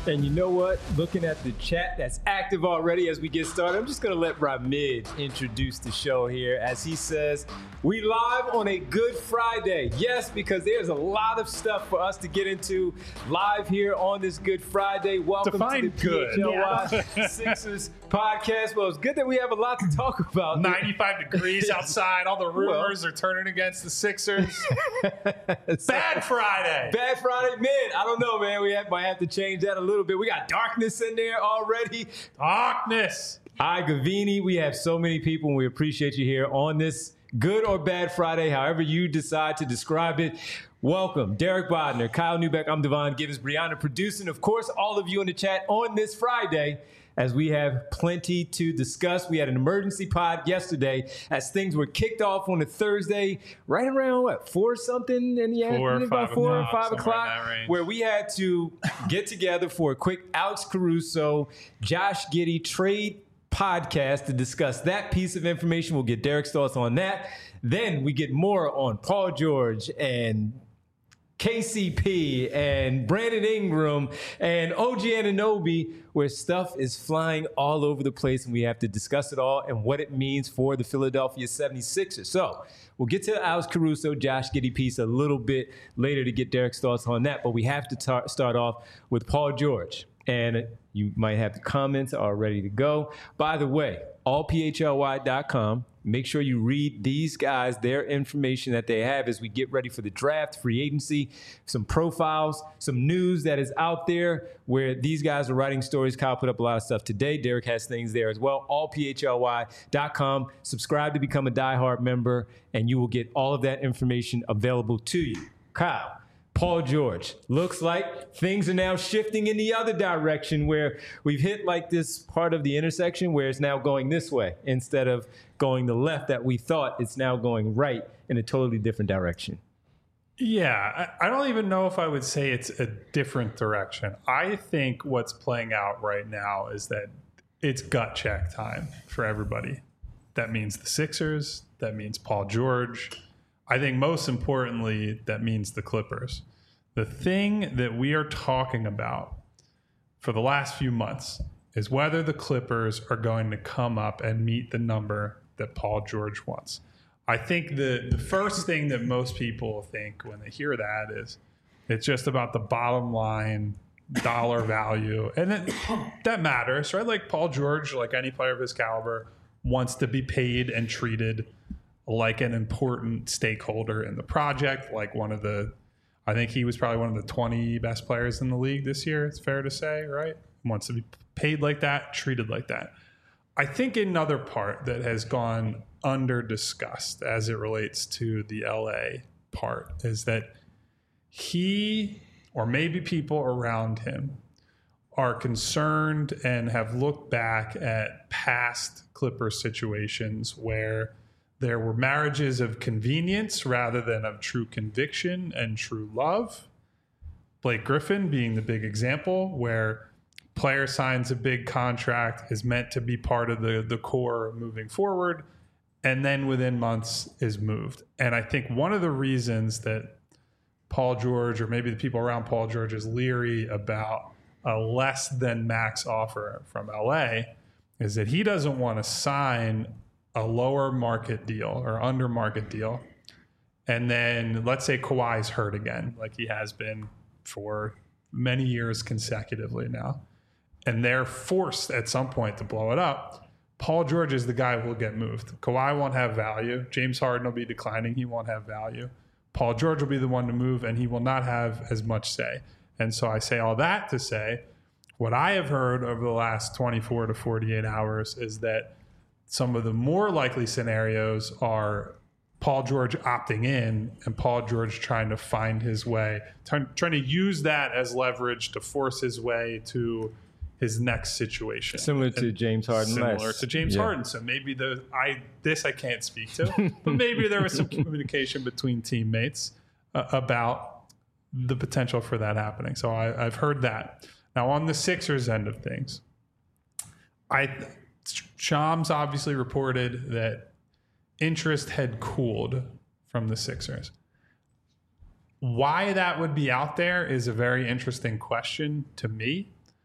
And you know what? Looking at the chat that's active already as we get started, I'm just going to let Ramid introduce the show here as he says, we live on a Good Friday. Yes, because there's a lot of stuff for us to get into live here on this Good Friday. Welcome Define to the PHLY Sixers podcast. Well, it's good that we have a lot to talk about. 95 degrees outside. All the rumors are turning against the Sixers. Bad Friday. Bad Friday. Man, I don't know, man. Might have to change that a little bit. We got darkness in there already. Darkness. Hi, Gavini. We have so many people, and we appreciate you here on this Good or Bad Friday, however you decide to describe it. Welcome, Derek Bodner, Kyle Newbeck. I'm Devon Gibbons, Brianna producing. Of course, all of you in the chat on this Friday, as we have plenty to discuss. We had an emergency pod yesterday as things were kicked off on a Thursday, right around, 4 something in the afternoon? About 4 or 5 o'clock, where we had to get together for a quick Alex Caruso, Josh Giddey trade podcast to discuss that piece of information. We'll get Derek's thoughts on that. Then we get more on Paul George and KCP and Brandon Ingram and OG Anunoby, where stuff is flying all over the place, and we have to discuss it all and what it means for the Philadelphia 76ers. So we'll get to Alex Caruso, Josh Giddey piece a little bit later to get Derek's thoughts on that, but we have to start off with Paul George. And you might have the comments all ready to go. By the way, allphly.com. Make sure you read these guys, their information that they have as we get ready for the draft, free agency, some profiles, some news that is out there where these guys are writing stories. Kyle put up a lot of stuff today. Derek has things there as well. Allphly.com. Subscribe to become a diehard member, and you will get all of that information available to you. Kyle. Paul George, looks like things are now shifting in the other direction where we've hit like this part of the intersection where it's now going this way instead of going the left that we thought. It's now going right in a totally different direction. Yeah, I don't even know if I would say it's a different direction. I think what's playing out right now is that it's gut check time for everybody. That means the Sixers. That means Paul George. I think most importantly, that means the Clippers. The thing that we are talking about for the last few months is whether the Clippers are going to come up and meet the number that Paul George wants. I think the first thing that most people think when they hear that is it's just about the bottom line dollar value. And that matters, right? Like Paul George, like any player of his caliber, wants to be paid and treated like an important stakeholder in the project, like I think he was probably one of the 20 best players in the league this year, it's fair to say, right? Wants to be paid like that, treated like that. I think another part that has gone under discussed as it relates to the LA part is that he, or maybe people around him, are concerned and have looked back at past Clippers situations where there were marriages of convenience rather than of true conviction and true love. Blake Griffin being the big example, where player signs a big contract, is meant to be part of the core moving forward, and then within months is moved. And I think one of the reasons that Paul George, or maybe the people around Paul George, is leery about a less than max offer from LA is that he doesn't want to sign a lower market deal or under market deal. And then let's say Kawhi's hurt again, like he has been for many years consecutively now. And they're forced at some point to blow it up. Paul George is the guy who will get moved. Kawhi won't have value. James Harden will be declining. He won't have value. Paul George will be the one to move, and he will not have as much say. And so I say all that to say, what I have heard over the last 24 to 48 hours is that some of the more likely scenarios are Paul George opting in and Paul George trying to find his way, trying to use that as leverage to force his way to his next situation. Similar to James Harden. Similar to James Harden. So maybe I can't speak to, but maybe there was some communication between teammates about the potential for that happening. So I've heard that. Now on the Sixers end of things, Shams obviously reported that interest had cooled from the Sixers. Why that would be out there is a very interesting question to me.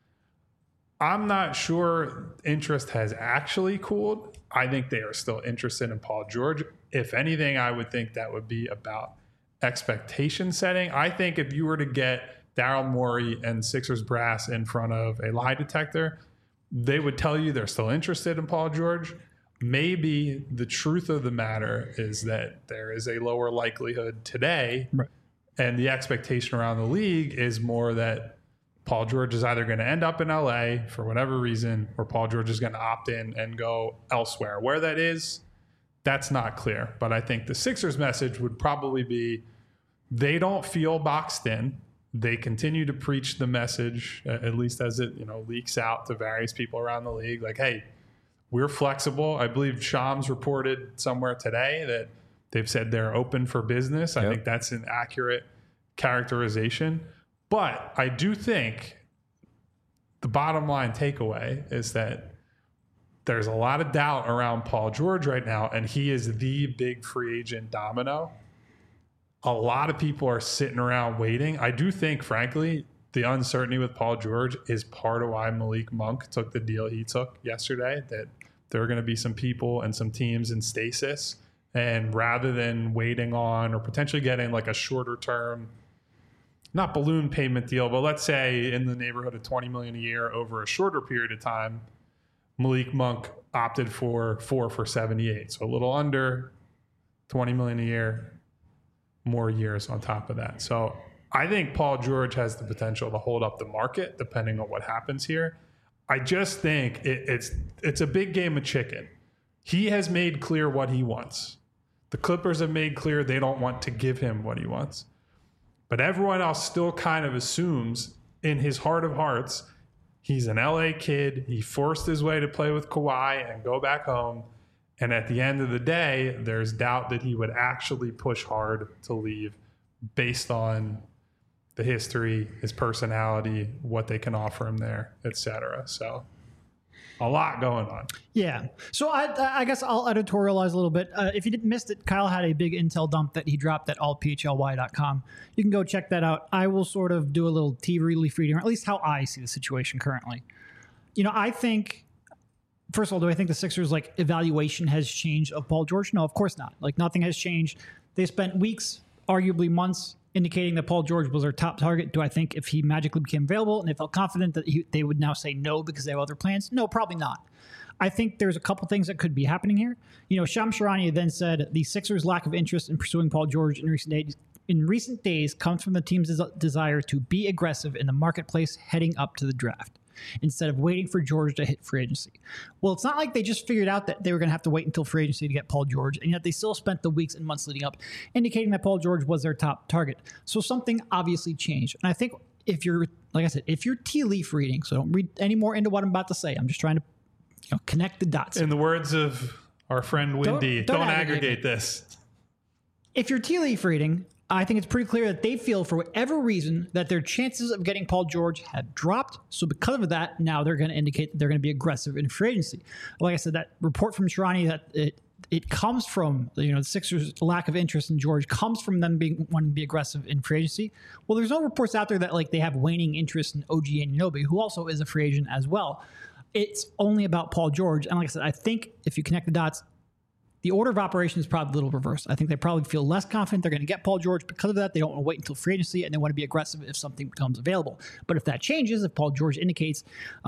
I'm not sure interest has actually cooled. I think they are still interested in Paul George. If anything, I would think that would be about expectation setting. I think if you were to get Daryl Morey and Sixers brass in front of a lie detector, they would tell you they're still interested in Paul George. Maybe the truth of the matter is that there is a lower likelihood today, right, and the expectation around the league is more that Paul George is either going to end up in LA for whatever reason, or Paul George is going to opt in and go elsewhere. Where that is, that's not clear. But I think the Sixers message would probably be they don't feel boxed in. They continue to preach the message, at least as it leaks out to various people around the league, like, hey, we're flexible. I believe Shams reported somewhere today that they've said they're open for business. I think that's an accurate characterization. But I do think the bottom line takeaway is that there's a lot of doubt around Paul George right now, and he is the big free agent domino. A lot of people are sitting around waiting. I do think, frankly, the uncertainty with Paul George is part of why Malik Monk took the deal he took yesterday, that there are going to be some people and some teams in stasis. And rather than waiting on or potentially getting like a shorter term, not balloon payment deal, but let's say in the neighborhood of $20 million a year over a shorter period of time, Malik Monk opted for 4 for $78. So a little under $20 million a year, more years on top of that. So I think Paul George has the potential to hold up the market depending on what happens here. I just think it's a big game of chicken. He has made clear what he wants. The Clippers have made clear they don't want to give him what he wants. But everyone else still kind of assumes in his heart of hearts, he's an LA kid. He forced his way to play with Kawhi and go back home. And at the end of the day, there's doubt that he would actually push hard to leave based on the history, his personality, what they can offer him there, etc. So a lot going on. Yeah. So I guess I'll editorialize a little bit. If you didn't miss it, Kyle had a big intel dump that he dropped at allphly.com. You can go check that out. I will sort of do a little tea leaf reading, or at least how I see the situation currently. I think, first of all, do I think the Sixers evaluation has changed of Paul George? No, of course not. Nothing has changed. They spent weeks, arguably months, indicating that Paul George was their top target. Do I think if he magically became available and they felt confident that they would now say no because they have other plans? No, probably not. I think there's a couple things that could be happening here. Shams Charania then said the Sixers' lack of interest in pursuing Paul George in recent days comes from the team's desire to be aggressive in the marketplace heading up to the draft, instead of waiting for George to hit free agency. Well, it's not like they just figured out that they were going to have to wait until free agency to get Paul George, and yet they still spent the weeks and months leading up indicating that Paul George was their top target. So something obviously changed. And I think if you're tea leaf reading, so don't read any more into what I'm about to say. I'm just trying to connect the dots. In the words of our friend Wendy, don't aggregate this. If you're tea leaf reading, I think it's pretty clear that they feel, for whatever reason, that their chances of getting Paul George have dropped. So because of that, now they're going to indicate that they're going to be aggressive in free agency. Like I said, that report from Sharani that it comes from, the Sixers' lack of interest in George comes from them wanting to be aggressive in free agency. Well, there's no reports out there that they have waning interest in OG Anunoby, who also is a free agent as well. It's only about Paul George. And like I said, I think if you connect the dots, the order of operations is probably a little reversed. I think they probably feel less confident they're going to get Paul George. Because of that, they don't want to wait until free agency, and they want to be aggressive if something becomes available. But if that changes, if Paul George indicates,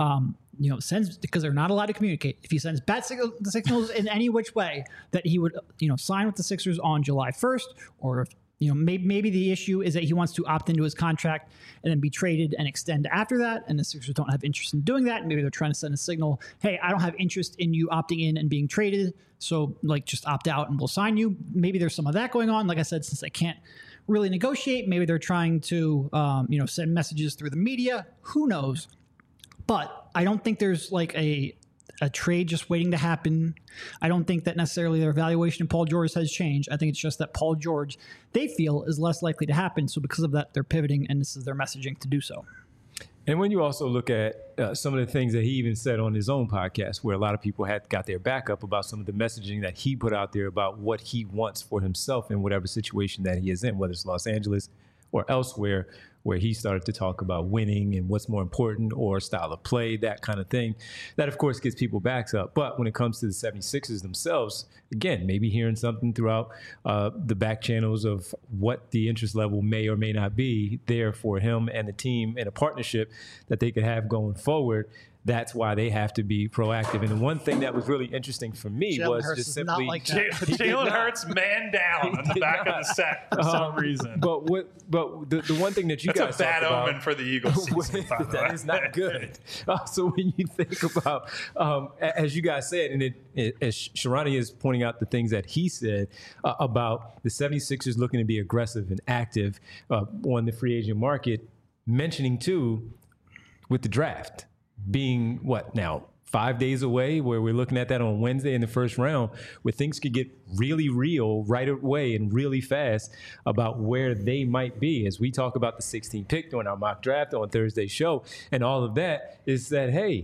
sends, because they're not allowed to communicate, if he sends bad signals in any which way that he would, sign with the Sixers on July 1st, or if, maybe the issue is that he wants to opt into his contract and then be traded and extend after that, and the Sixers don't have interest in doing that. Maybe they're trying to send a signal, hey, I don't have interest in you opting in and being traded, so just opt out and we'll sign you. Maybe there's some of that going on. Like I said, since they can't really negotiate, maybe they're trying to send messages through the media. Who knows? But I don't think there's a trade just waiting to happen. I don't think that necessarily their evaluation of Paul George has changed. I think it's just that Paul George, they feel, is less likely to happen. So because of that, they're pivoting, and this is their messaging to do so. And when you also look at some of the things that he even said on his own podcast, where a lot of people had got their back up about some of the messaging that he put out there about what he wants for himself in whatever situation that he is in, whether it's Los Angeles, or elsewhere, where he started to talk about winning and what's more important or style of play, that kind of thing. That, of course, gets people backs up. But when it comes to the 76ers themselves, again, maybe hearing something throughout the back channels of what the interest level may or may not be there for him and the team in a partnership that they could have going forward. That's why they have to be proactive. And the one thing that was really interesting for me was Hurts just is simply not like that. Jalen Hurts man down on the back of the set for some reason. But the one thing that you That's guys a bad talked about, omen for the Eagles season. By the that way. is not good. So when you think about, as you guys said, and as Sharani is pointing out the things that he said about the 76ers looking to be aggressive and active on the free agent market, mentioning too with the draft being what now 5 days away, where we're looking at that on Wednesday in the first round, where things could get really real right away and really fast about where they might be. As we talk about the 16th pick during our mock draft on Thursday's show, and all of that is that, hey,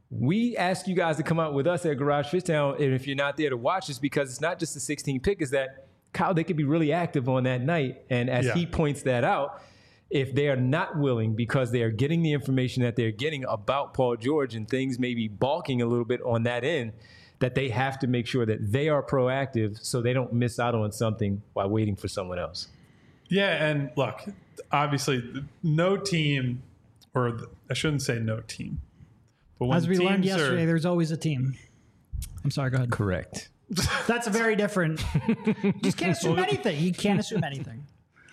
we ask you guys to come out with us at Garage Fishtown, and if you're not there to watch us, because it's not just the 16th pick, is that, Kyle, they could be really active on that night. And as he points that out, if they are not willing, because they are getting the information that they're getting about Paul George and things may be balking a little bit on that end, that they have to make sure that they are proactive so they don't miss out on something while waiting for someone else. Yeah, and look, obviously, no team, or I shouldn't say no team, but when As we learned teams yesterday, there's always a team. I'm sorry, go ahead. Correct. That's a very different. You just can't assume anything. You can't assume anything.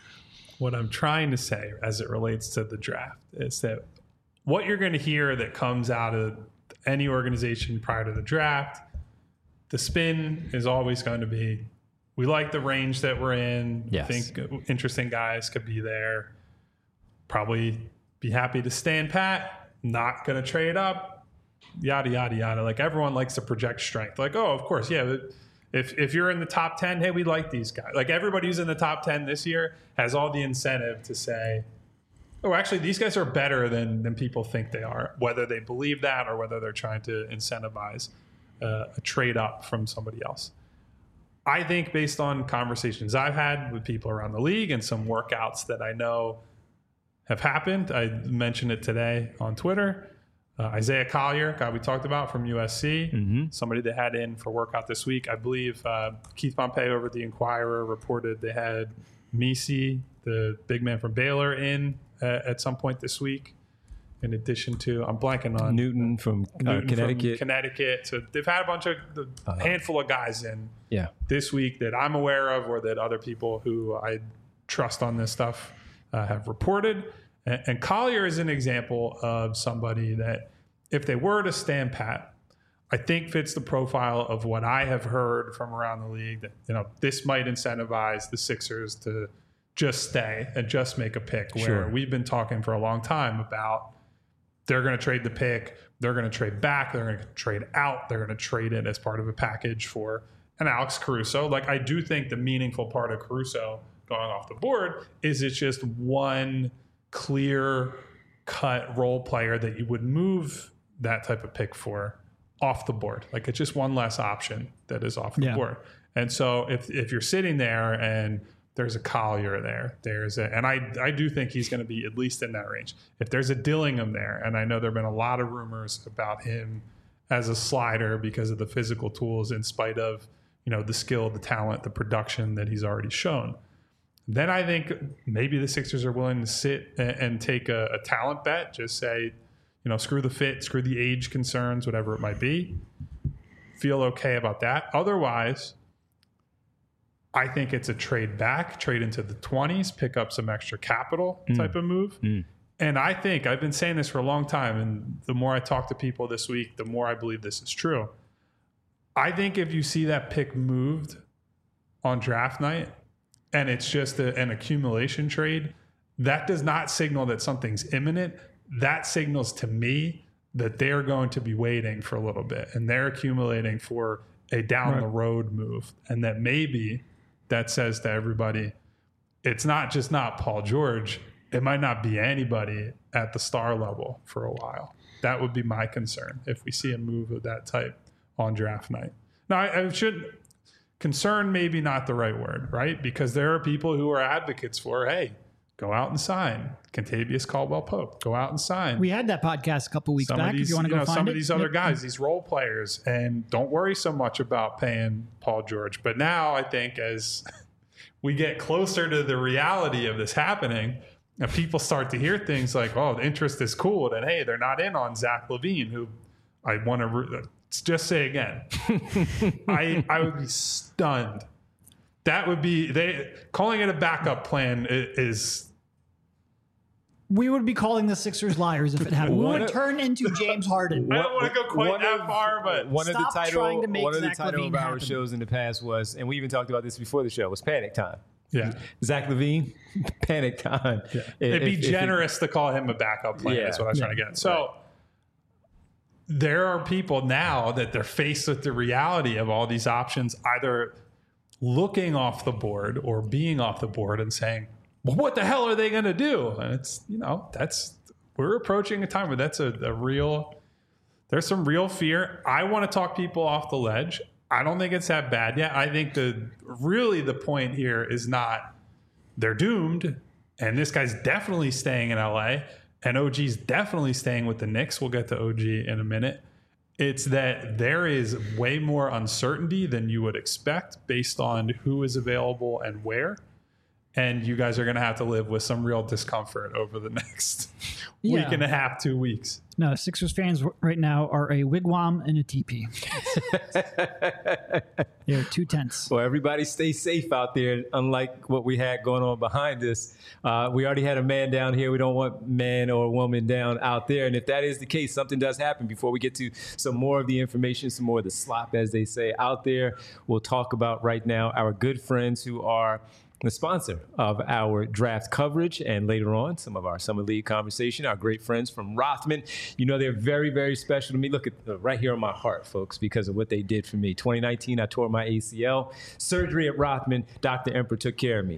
What I'm trying to say as it relates to the draft is that what you're going to hear that comes out of any organization prior to the draft, the spin is always going to be, we like the range that we're in. Yes. We think interesting guys could be there. Probably be happy to stand pat, not going to trade up, yada, yada, yada. Like everyone likes to project strength. Like, oh, of course, yeah. If you're in the top 10, hey, we like these guys. Like everybody who's in the top 10 this year has all the incentive to say, oh, actually, these guys are better than people think they are, whether they believe that or whether they're trying to incentivize a trade up from somebody else. I think based on conversations I've had with people around the league and some workouts that I know have happened, I mentioned it today on Twitter, Isaiah Collier, guy we talked about from USC, somebody they had in for workout this week. I believe Keith Pompey over at the Inquirer reported they had Misi, the big man from Baylor, in at some point this week. In addition to, I'm blanking on Newton from Connecticut. So they've had a bunch of handful of guys in Yeah. this week that I'm aware of, or that other people who I trust on this stuff have reported. And Collier is an example of somebody that, if they were to stand pat, I think fits the profile of what I have heard from around the league, that this might incentivize the Sixers to just stay and just make a pick. Where we've been talking for a long time about they're going to trade the pick, they're going to trade back, they're going to trade out, they're going to trade it as part of a package for an Alex Caruso. Like, I do think the meaningful part of Caruso going off the board is it's just one clear cut role player that you would move that type of pick for off the board. Like, it's just one less option that is off the board. And so if you're sitting there and there's a Collier there, and I do think he's going to be at least in that range. If there's a Dillingham there, and I know there have been a lot of rumors about him as a slider because of the physical tools, in spite of the skill, the talent, the production that he's already shown, then I think maybe the Sixers are willing to sit and take a talent bet. Just say, screw the fit, screw the age concerns, whatever it might be. Feel okay about that. Otherwise, I think it's a trade back, trade into the 20s, pick up some extra capital type of move. And I think, I've been saying this for a long time, and the more I talk to people this week, the more I believe this is true. I think if you see that pick moved on draft night and it's just an accumulation trade, that does not signal that something's imminent. That signals to me that they're going to be waiting for a little bit and they're accumulating for a down the road move. And that maybe that says to everybody, it's not Paul George. It might not be anybody at the star level for a while. That would be my concern if we see a move of that type on draft night. Now, I should, concern maybe not the right word, right? Because there are people who are advocates for, hey, Go out and sign Contavious Caldwell-Pope. Go out and sign. We had that podcast a couple weeks back. If you want to go find some it. of these other guys, these role players, and don't worry so much about paying Paul George. But now I think as we get closer to the reality of this happening, and people start to hear things like, "Oh, the interest is cool," then hey, they're not in on Zach LaVine, who I want to just say again, I would be stunned. That would be calling it a backup plan is. We would be calling the Sixers liars if it happened. We would turn into James Harden. I don't want to go quite that far, but one of the title LaVine of our happen. shows in the past was, and we even talked about this before the show, was Panic Time. yeah, Zach LaVine, Panic Time. yeah. It'd be generous to call him a backup plan. Yeah. Is what I was trying to get. So there are people now that they're faced with the reality of all these options, either looking off the board or being off the board and saying, well, what the hell are they going to do? And it's, we're approaching a time where that's a real, there's some real fear. I want to talk people off the ledge. I don't think it's that bad yet. I think the point here is not they're doomed. And this guy's definitely staying in LA and OG's definitely staying with the Knicks. We'll get to OG in a minute. It's that there is way more uncertainty than you would expect based on who is available and where. And you guys are going to have to live with some real discomfort over the next week and a half, 2 weeks. No, Sixers fans right now are a wigwam and a teepee. They're 2 tents. Well, everybody stay safe out there, unlike what we had going on behind us. We already had a man down here. We don't want man or woman down out there. And if that is the case, something does happen. Before we get to some more of the information, some more of the slop, as they say, out there, we'll talk about right now our good friends who are the sponsor of our draft coverage, and later on, some of our Summer League conversation, our great friends from Rothman. They're very, very special to me. Look at right here on my heart, folks, because of what they did for me. 2019, I tore my ACL. Surgery at Rothman, Dr. Emperor took care of me.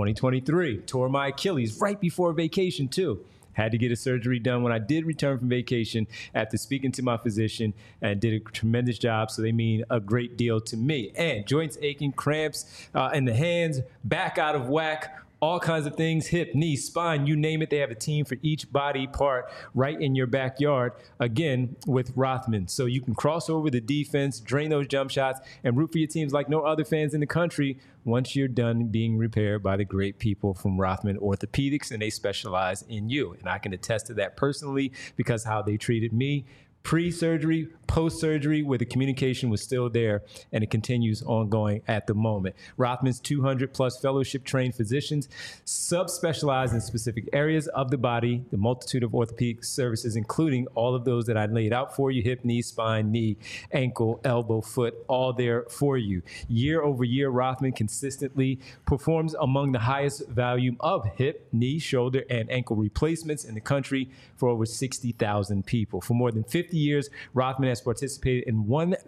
2023, tore my Achilles right before vacation, too. Had to get a surgery done when I did return from vacation after speaking to my physician, and did a tremendous job. So they mean a great deal to me. And joints aching, cramps in the hands, back out of whack, all kinds of things, hip, knee, spine, you name it. They have a team for each body part right in your backyard, again, with Rothman. So you can cross over the defense, drain those jump shots, and root for your teams like no other fans in the country once you're done being repaired by the great people from Rothman Orthopedics, and they specialize in you. And I can attest to that personally because how they treated me pre-surgery, post-surgery, where the communication was still there, and it continues ongoing at the moment. Rothman's 200-plus fellowship-trained physicians subspecialize in specific areas of the body, the multitude of orthopedic services, including all of those that I laid out for you: hip, knee, spine, knee, ankle, elbow, foot, all there for you. Year over year, Rothman consistently performs among the highest volume of hip, knee, shoulder, and ankle replacements in the country for over 60,000 people. For more than 50 years, Rothman has participated in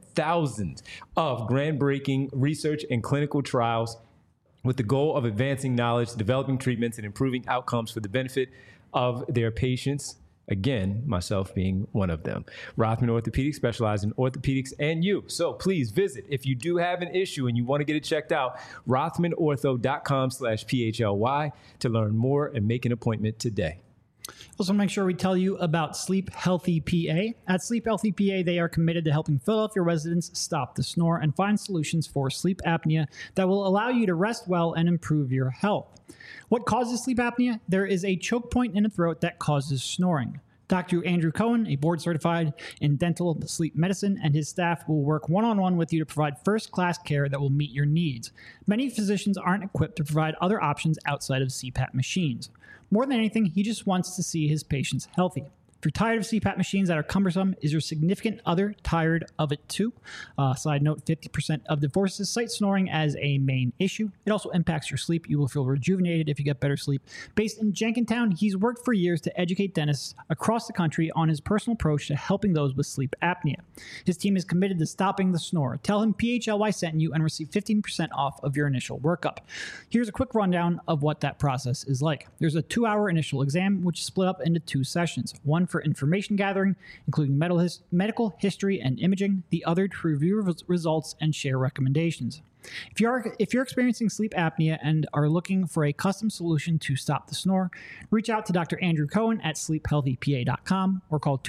1,000 of groundbreaking research and clinical trials with the goal of advancing knowledge, developing treatments, and improving outcomes for the benefit of their patients. Again, myself being one of them. Rothman Orthopedics specializes in orthopedics and you. So please visit if you do have an issue and you want to get it checked out, rothmanortho.com/PHLY to learn more and make an appointment today. Also, make sure we tell you about Sleep Healthy PA. At Sleep Healthy PA, they are committed to helping Philadelphia residents stop the snore and find solutions for sleep apnea that will allow you to rest well and improve your health. What causes sleep apnea? There is a choke point in the throat that causes snoring. Dr. Andrew Cohen, a board certified in dental sleep medicine, and his staff will work one-on-one with you to provide first-class care that will meet your needs. Many physicians aren't equipped to provide other options outside of CPAP machines. More than anything, he just wants to see his patients healthy. If you're tired of CPAP machines that are cumbersome, is your significant other tired of it too? Side note, 50% of divorces cite snoring as a main issue. It also impacts your sleep. You will feel rejuvenated if you get better sleep. Based in Jenkintown, he's worked for years to educate dentists across the country on his personal approach to helping those with sleep apnea. His team is committed to stopping the snore. Tell him PHLY sent you and receive 15% off of your initial workup. Here's a quick rundown of what that process is like. There's a 2-hour initial exam, which is split up into 2 sessions. One for information gathering, including medical history and imaging, the other to review results and share recommendations. If you're experiencing sleep apnea and are looking for a custom solution to stop the snore, reach out to Dr. Andrew Cohen at sleephealthypa.com or call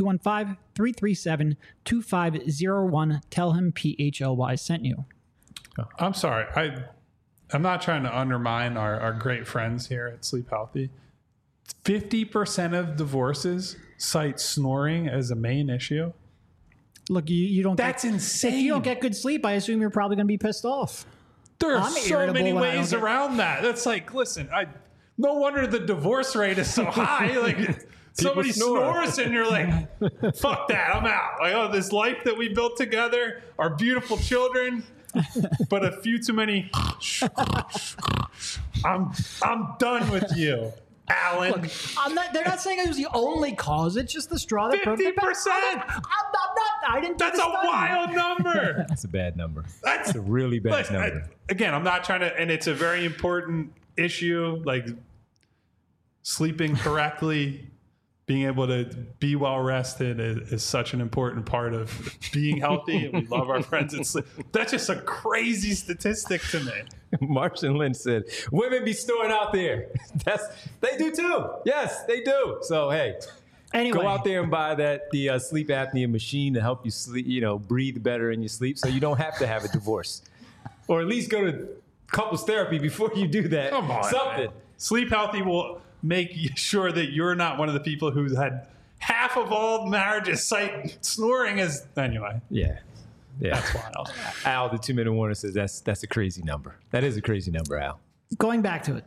215-337-2501. Tell him PHLY sent you. I'm sorry. I'm not trying to undermine our great friends here at Sleep Healthy. 50% of divorces cite snoring as a main issue. Look, you don't. That's insane. If you don't get good sleep, I assume you're probably going to be pissed off. There are I'm so irritable many when I ways don't get- around that. That's like, listen, no wonder the divorce rate is so high. Like somebody snores and you're like, fuck that, I'm out. Like, oh, this life that we built together, our beautiful children, but a few too many. I'm done with you, Alan. Look, they're not saying it was the only cause. It's just the straw that broke the 50%. I didn't. Do That's the a study. wild number. That's a bad number. That's It's a really bad number. Again, I'm not trying to, and it's a very important issue. Like sleeping correctly, being able to be well rested is such an important part of being healthy. And we love our friends at sleep. That's just a crazy statistic to me. Martian Lynch said, women be snoring out there. They do too. Yes, they do. So, hey, Anyway, go out there and buy the sleep apnea machine to help you sleep, breathe better in your sleep so you don't have to have a divorce. Or at least go to couples therapy before you do that. Come on. Something. Man. Sleep Healthy will make sure that you're not one of the people who's had half of all marriages cite snoring as, anyway. Yeah. That's wild. Al, the 2 Minute Warner, says that's a crazy number. That is a crazy number, Al. going back to it,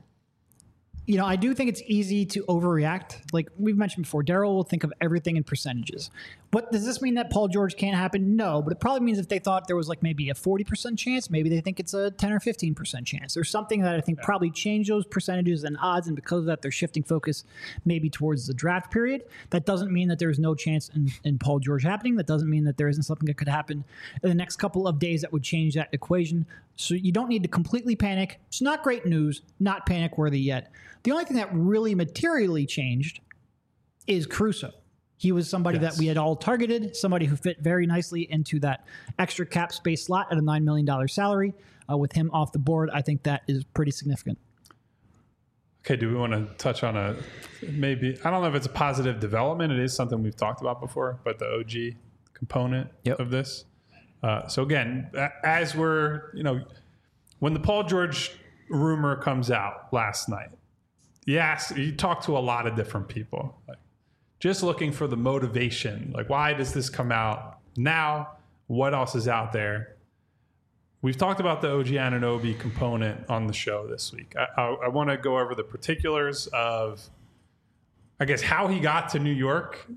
I do think it's easy to overreact. Like we've mentioned before, Daryl will think of everything in percentages. But does this mean that Paul George can't happen? No, but it probably means if they thought there was like maybe a 40% chance, maybe they think it's a 10 or 15% chance. There's something that I think probably changed those percentages and odds, and because of that, they're shifting focus maybe towards the draft period. That doesn't mean that there's no chance in Paul George happening. That doesn't mean that there isn't something that could happen in the next couple of days that would change that equation. So you don't need to completely panic. It's not great news, not panic worthy yet. The only thing that really materially changed is Caruso. He was somebody that we had all targeted, somebody who fit very nicely into that extra cap space slot at a $9 million salary. With him off the board, I think that is pretty significant. Okay, do we want to touch on maybe, I don't know if it's a positive development. It is something we've talked about before, but the OG component of this. So again, as we're, when the Paul George rumor comes out last night, you talk to a lot of different people, like just looking for the motivation. Like, why does this come out now? What else is out there? We've talked about the OG Anunoby component on the show this week. I want to go over the particulars of, I guess, how he got to New York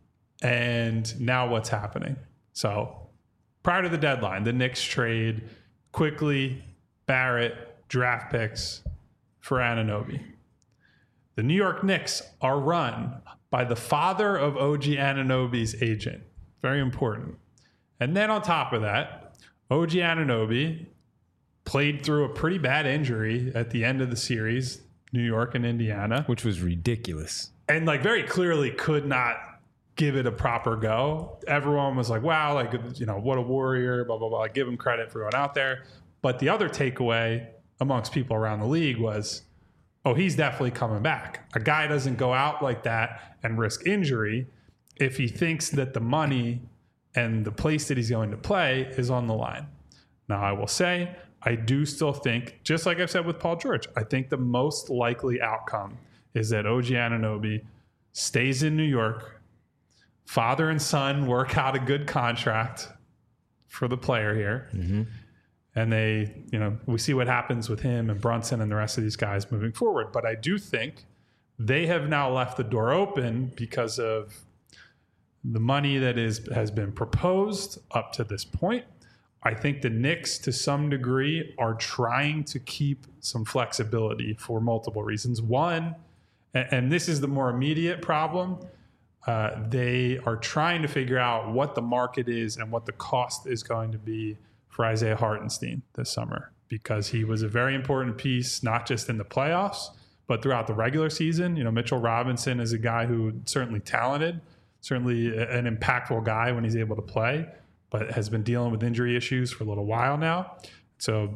and now what's happening. So prior to the deadline, the Knicks trade quickly Barrett draft picks for Anunoby. The New York Knicks are run by the father of OG Anunoby's agent. Very important. And then on top of that, OG Anunoby played through a pretty bad injury at the end of the series, New York and Indiana. Which was ridiculous. And very clearly could not give it a proper go. Everyone was like, wow, what a warrior, blah, blah, blah. Give him credit for going out there. But the other takeaway amongst people around the league was, oh, he's definitely coming back. A guy doesn't go out like that and risk injury if he thinks that the money and the place that he's going to play is on the line. Now, I will say, I do still think, just like I've said with Paul George, I think the most likely outcome is that OG Anunoby stays in New York, father and son work out a good contract for the player here. Mm-hmm. And they, we see what happens with him and Brunson and the rest of these guys moving forward. But I do think they have now left the door open because of the money that has been proposed up to this point. I think the Knicks, to some degree, are trying to keep some flexibility for multiple reasons. One, and this is the more immediate problem, they are trying to figure out what the market is and what the cost is going to be for Isaiah Hartenstein this summer, because he was a very important piece, not just in the playoffs, but throughout the regular season. Mitchell Robinson is a guy who certainly talented, certainly an impactful guy when he's able to play, but has been dealing with injury issues for a little while now. So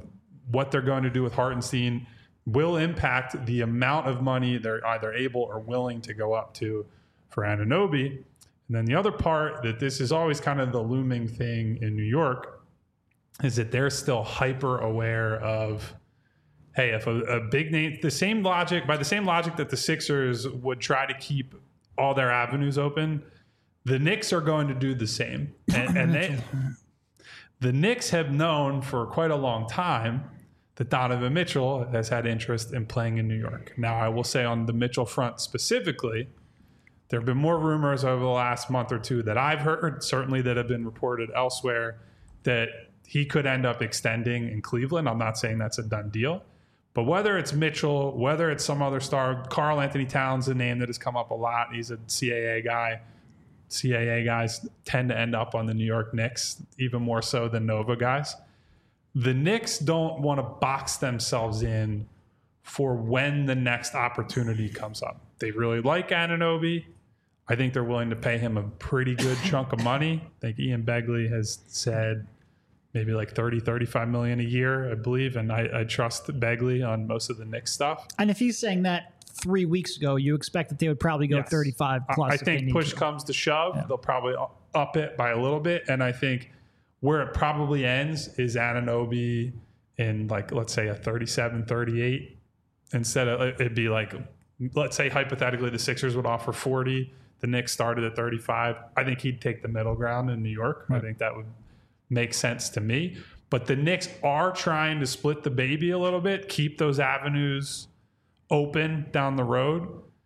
what they're going to do with Hartenstein will impact the amount of money they're either able or willing to go up to for Anunoby. And then the other part that this is always kind of the looming thing in New York is that they're still hyper aware of, hey, if a big name, by the same logic that the Sixers would try to keep all their avenues open, the Knicks are going to do the same. And the Knicks have known for quite a long time that Donovan Mitchell has had interest in playing in New York. Now, I will say on the Mitchell front specifically, there have been more rumors over the last month or two that I've heard, certainly that have been reported elsewhere, that he could end up extending in Cleveland. I'm not saying that's a done deal. But whether it's Mitchell, whether it's some other star, Karl Anthony Towns, a name that has come up a lot. He's a CAA guy. CAA guys tend to end up on the New York Knicks, even more so than Nova guys. The Knicks don't want to box themselves in for when the next opportunity comes up. They really like Anunoby. I think they're willing to pay him a pretty good chunk of money. I think Ian Begley has said maybe like 35 million a year, I believe. And I trust Begley on most of the Knicks stuff. And if he's saying that 3 weeks ago, you expect that they would probably go 35 plus. I think push comes to shove. They'll probably up it by a little bit. And I think where it probably ends is Anunoby in, like, let's say a 37, 38. Instead of, it'd be like, let's say hypothetically the Sixers would offer 40. The Knicks started at 35. I think he'd take the middle ground in New York. Right. I think that would make sense to me. But the Knicks are trying to split the baby a little bit, keep those avenues open down the road,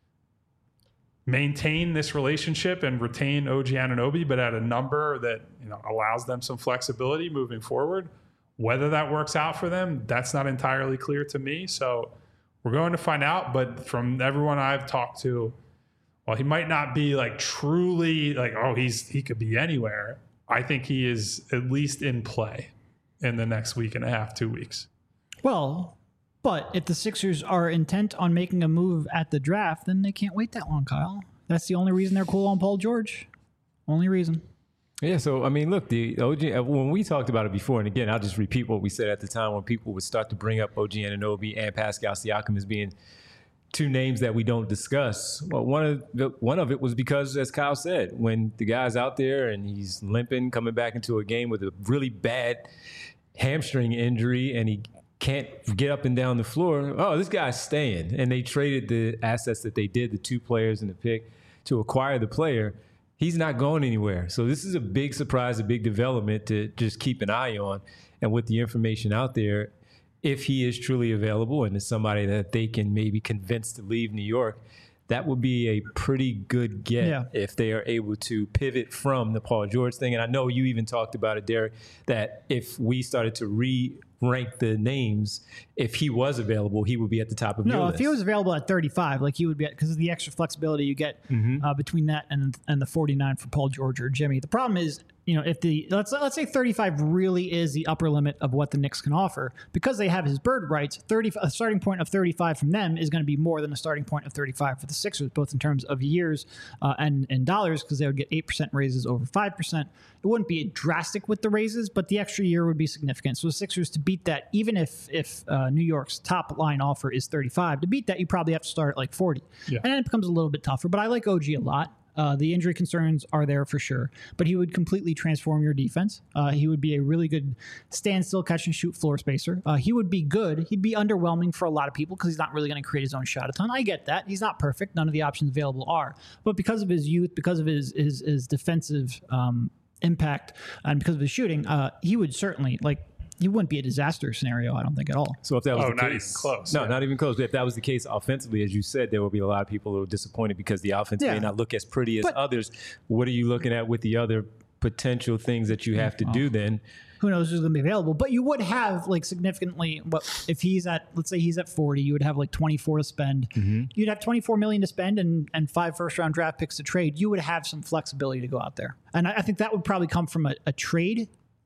maintain this relationship and retain OG Anunoby, but at a number that, you know, allows them some flexibility moving forward. Whether that works out for them, that's not entirely clear to me. So we're going to find out. But from everyone I've talked to, while he might not be like truly like, oh, he could be anywhere, I think he is at least in play in the next week and a half, 2 weeks. Well, but if the Sixers are intent on making a move at the draft, then they can't wait that long, Kyle. That's the only reason they're cool on Paul George. Only reason. Yeah, so, I mean, look, the OG, when we talked about it before, and again, I'll just repeat what we said at the time when people would start to bring up OG Anunoby and Pascal Siakam as being two names that we don't discuss. Well, one of it was because, as Kyle said, when the guy's out there and he's limping, coming back into a game with a really bad hamstring injury, and he can't get up and down the floor, oh, this guy's staying. And they traded the assets that they did, the 2 players and the pick, to acquire the player. He's not going anywhere. So this is a big surprise, a big development to just keep an eye on. And with the information out there, if he is truly available and is somebody that they can maybe convince to leave New York, that would be a pretty good get if they are able to pivot from the Paul George thing. And I know you even talked about it, Derek, that if we started to rank the names, if he was available, he would be at the top of your list. No, if he was available at 35, like he would be, because of the extra flexibility you get between that and the 49 for Paul George or Jimmy. The problem is, you know, if the let's say 35 really is the upper limit of what the Knicks can offer, because they have his bird rights, a starting point of 35 from them is going to be more than a starting point of 35 for the Sixers, both in terms of years and dollars, because they would get 8% raises over 5%. It wouldn't be drastic with the raises, but the extra year would be significant. So the Sixers, to beat that, even if New York's top line offer is 35, to beat that, you probably have to start at like 40. Yeah. And then it becomes a little bit tougher, but I like OG a lot. The injury concerns are there for sure, but he would completely transform your defense. He would be a really good standstill, catch and shoot floor spacer. He would be good. He'd be underwhelming for a lot of people because he's not really going to create his own shot a ton. I get that. He's not perfect. None of the options available are. But because of his youth, because of his defensive impact, and because of his shooting, he would certainly, like, he wouldn't be a disaster scenario, I don't think, at all. So if that was the not case, even close. No, not even close. But if that was the case offensively, as you said, there will be a lot of people who are disappointed because the offense may not look as pretty as others. What are you looking at with the other potential things that you have to do then? Who knows who's going to be available? But you would have, like, significantly, if he's at, let's say he's at 40, you would have like 24 to spend. You'd have $24 million to spend and 5 first-round draft picks to trade. You would have some flexibility to go out there. And I think that would probably come from a trade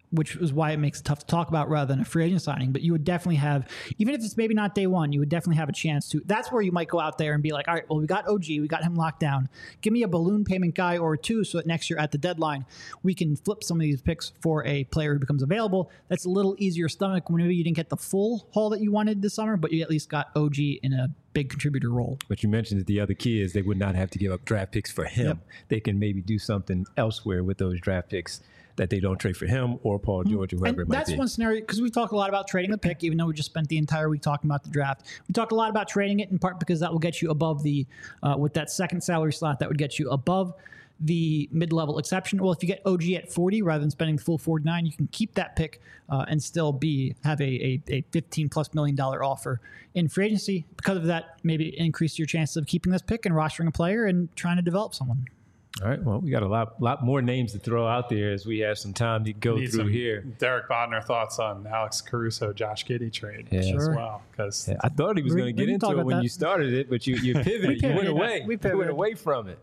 which is why it makes it tough to talk about rather than a free agent signing. But you would definitely have, even if it's maybe not day one, you would definitely have a chance to. That's where you might go out there and be like, all right, well, we got OG, we got him locked down. Give me a balloon payment guy or two so that next year at the deadline, we can flip some of these picks for a player who becomes available. That's a little easier stomach when maybe you didn't get the full haul that you wanted this summer, but you at least got OG in a big contributor role. But you mentioned that the other key is they would not have to give up draft picks for him. Yep. They can maybe do something elsewhere with those draft picks that they don't trade for him or Paul George or whoever it might be. That's one scenario, because we talk a lot about trading the pick, even though we just spent the entire week talking about the draft. We talk a lot about trading it in part because that will get you above the, with that second salary slot, that would get you above the mid-level exception. Well, if you get OG at 40 rather than spending the full 49, you can keep that pick and still have a $15+ million offer in free agency. Because of that, maybe increase your chances of keeping this pick and rostering a player and trying to develop someone. All right. Well, we got a lot more names to throw out there as we have some time to go through here. Derek Bodner thoughts on Alex Caruso, Josh Giddey trade as well. Because I thought he was going to get into it when you started it, but you pivoted. You went away. You went away from it.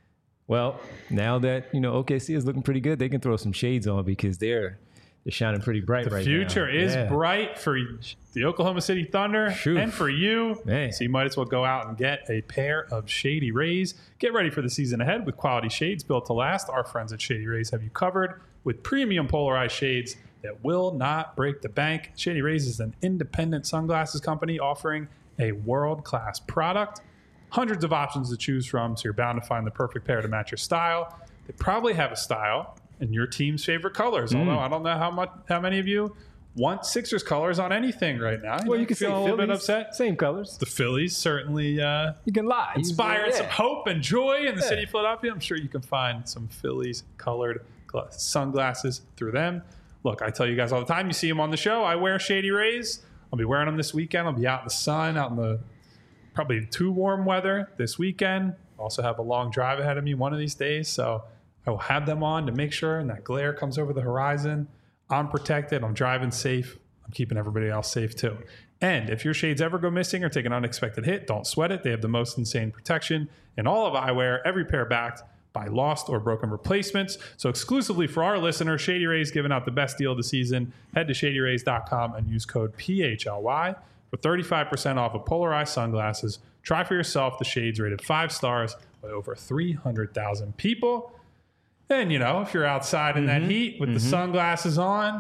Well, now that OKC is looking pretty good, they can throw some shades on because they're shining pretty bright right now. The future is bright for the Oklahoma City Thunder and for you. Man. So you might as well go out and get a pair of Shady Rays. Get ready for the season ahead with quality shades built to last. Our friends at Shady Rays have you covered with premium polarized shades that will not break the bank. Shady Rays is an independent sunglasses company offering a world-class product. Hundreds of options to choose from, so you're bound to find the perfect pair to match your style. They probably have a style in your team's favorite colors. Although I don't know how many of you want Sixers colors on anything right now. Well, you can feel a little bit upset. Same colors. The Phillies certainly you can lie. Inspiring some hope and joy in the city of Philadelphia. I'm sure you can find some Phillies colored sunglasses through them. Look, I tell you guys all the time, you see them on the show. I wear Shady Rays. I'll be wearing them this weekend. I'll be out in the sun, out in the probably too warm weather this weekend. Also have a long drive ahead of me one of these days. So I will have them on to make sure and that glare comes over the horizon. I'm protected. I'm driving safe. I'm keeping everybody else safe too. And if your shades ever go missing or take an unexpected hit, don't sweat it. They have the most insane protection in all of eyewear, every pair backed by lost or broken replacements. So exclusively for our listeners, Shady Rays giving out the best deal of the season. Head to shadyrays.com and use code PHLY for 35% off of polarized sunglasses. Try for yourself the shades rated 5 stars by over 300,000 people. And, if you're outside in that heat with the sunglasses on,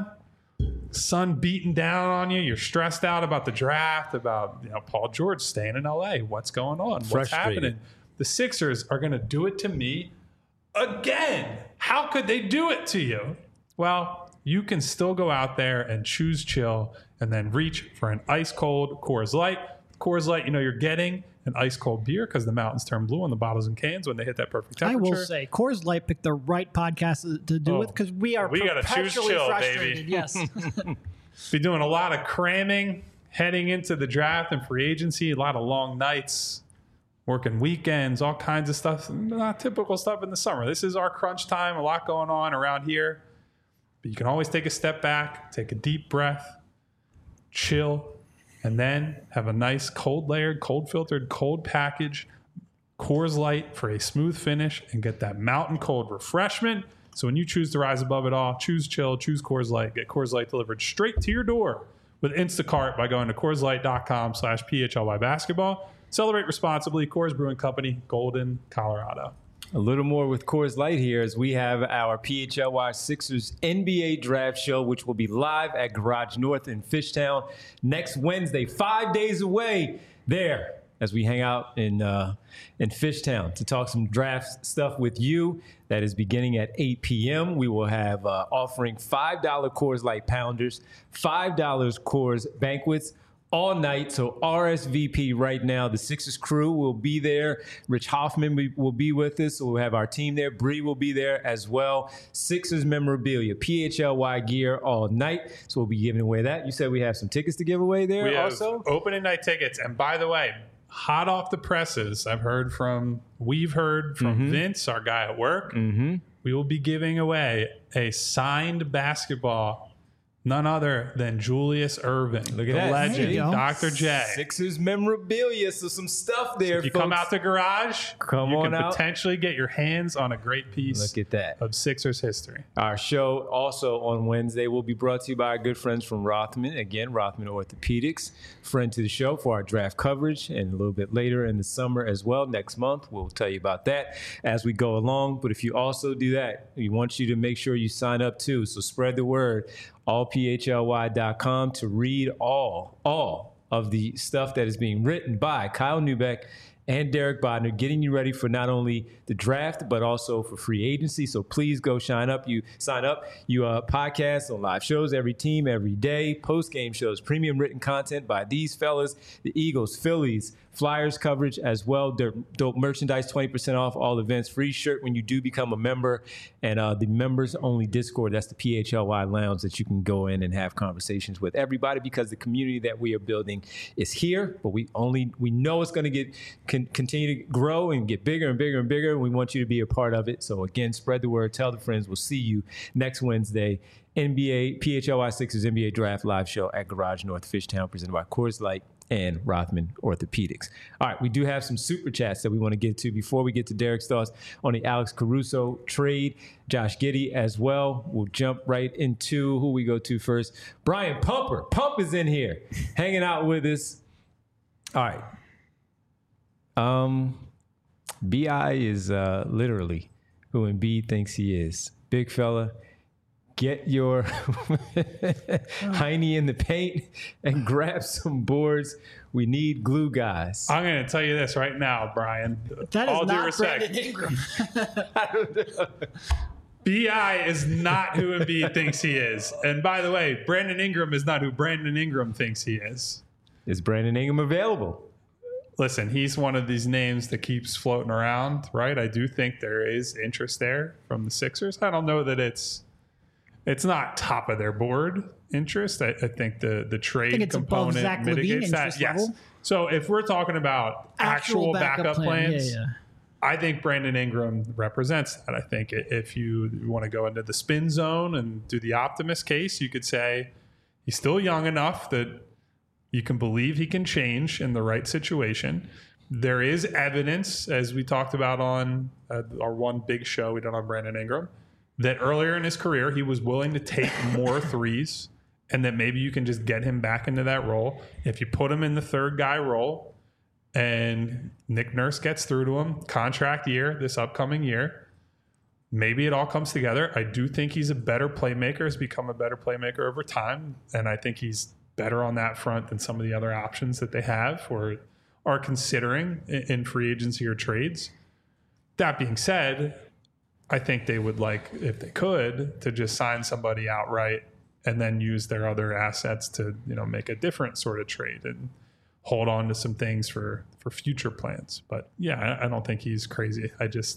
sun beating down on you, you're stressed out about the draft, about Paul George staying in LA. What's going on? What's happening? The Sixers are going to do it to me again. How could they do it to you? Well, you can still go out there and choose chill and then reach for an ice cold Coors Light. Coors Light, you're getting an ice cold beer because the mountains turn blue on the bottles and cans when they hit that perfect temperature. I will say, Coors Light picked the right podcast to do with because we got to choose chill, baby. Yes. Be doing a lot of cramming heading into the draft and free agency, a lot of long nights, working weekends, all kinds of stuff. Not typical stuff in the summer. This is our crunch time, a lot going on around here. But you can always take a step back, take a deep breath, chill, and then have a nice cold layered, cold filtered, cold package Coors Light for a smooth finish and get that mountain cold refreshment. So when you choose to rise above it all, choose chill, choose Coors Light. Get Coors Light delivered straight to your door with Instacart by going to CoorsLight.com/PHLY basketball. Celebrate responsibly. Coors Brewing Company, Golden, Colorado. A little more with Coors Light here as we have our PHLY Sixers NBA Draft Show, which will be live at Garage North in Fishtown next Wednesday, 5 days away there as we hang out in Fishtown to talk some draft stuff with you. That is beginning at 8 p.m. We will have offering $5 Coors Light Pounders, $5 Coors Banquets, all night. So RSVP right now. The Sixers crew will be there. Rich Hoffman will be with us. So we'll have our team there. Bree will be there as well. Sixers memorabilia, PHLY gear all night. So we'll be giving away that. You said we have some tickets to give away there we also? Have opening night tickets. And by the way, hot off the presses, we've heard from Vince, our guy at work. We will be giving away a signed basketball none other than Julius Erving. Look at the that. legend, There you go. Dr. J. Sixers memorabilia, so some stuff there. If you folks. come out the garage, Come you on can out. potentially get your hands on a great piece Look at that. of Sixers history. Our show also on Wednesday will be brought to you by our good friends from Rothman. Again, Rothman Orthopedics, friend to the show for our draft coverage, and a little bit later in the summer as well. Next month, we'll tell you about that as we go along. But if you also do that, we want you to make sure you sign up too. So spread the word. allphly.com to read all of the stuff that is being written by Kyle Neubeck and Derek Bodner, getting you ready for not only the draft, but also for free agency. So please go sign up. You podcast on live shows, every team, every day, post-game shows, premium written content by these fellas, the Eagles, Phillies, Flyers coverage as well. Dope merchandise, 20% off all events, free shirt when you do become a member, and the members-only Discord. That's the PHLY Lounge that you can go in and have conversations with everybody, because the community that we are building is here, but we know it's going to continue to grow and get bigger and bigger and bigger, and we want you to be a part of it. So again, spread the word, tell the friends. We'll see you next Wednesday. NBA PHLY Sixers NBA Draft Live Show at Garage North Fishtown, presented by Coors Light and Rothman Orthopedics. All right, we do have some super chats that we want to get to before we get to Derek's thoughts on the Alex Caruso trade. Josh Giddey as well. We'll jump right into who we go to first. Brian Pumper. Pump is in here, hanging out with us. All right. B.I. is literally who Embiid thinks he is. Big fella. Get your hiney in the paint and grab some boards. We need glue guys. I'm going to tell you this right now, Brian. That is All due not respect. Brandon Ingram. B.I. is not who Embiid thinks he is. And by the way, Brandon Ingram is not who Brandon Ingram thinks he is. Is Brandon Ingram available? Listen, he's one of these names that keeps floating around, right? I do think there is interest there from the Sixers. I don't know that it's not top of their board interest. I think the trade it's above component Zach LaVine mitigates that. interest Yes. level. So if we're talking about actual backup plans, Yeah. I think Brandon Ingram represents that. I think if you want to go into the spin zone and do the optimist case, you could say he's still young enough that you can believe he can change in the right situation. There is evidence, as we talked about on our one big show we did on Brandon Ingram, that earlier in his career, he was willing to take more threes, and that maybe you can just get him back into that role. If you put him in the third guy role and Nick Nurse gets through to him, contract year, this upcoming year, maybe it all comes together. I do think he's a better playmaker, has become a better playmaker over time, and I think he's better on that front than some of the other options that they have or are considering in free agency or trades. That being said, I think they would like, if they could, to just sign somebody outright and then use their other assets to, make a different sort of trade and hold on to some things for future plans. But yeah, I don't think he's crazy.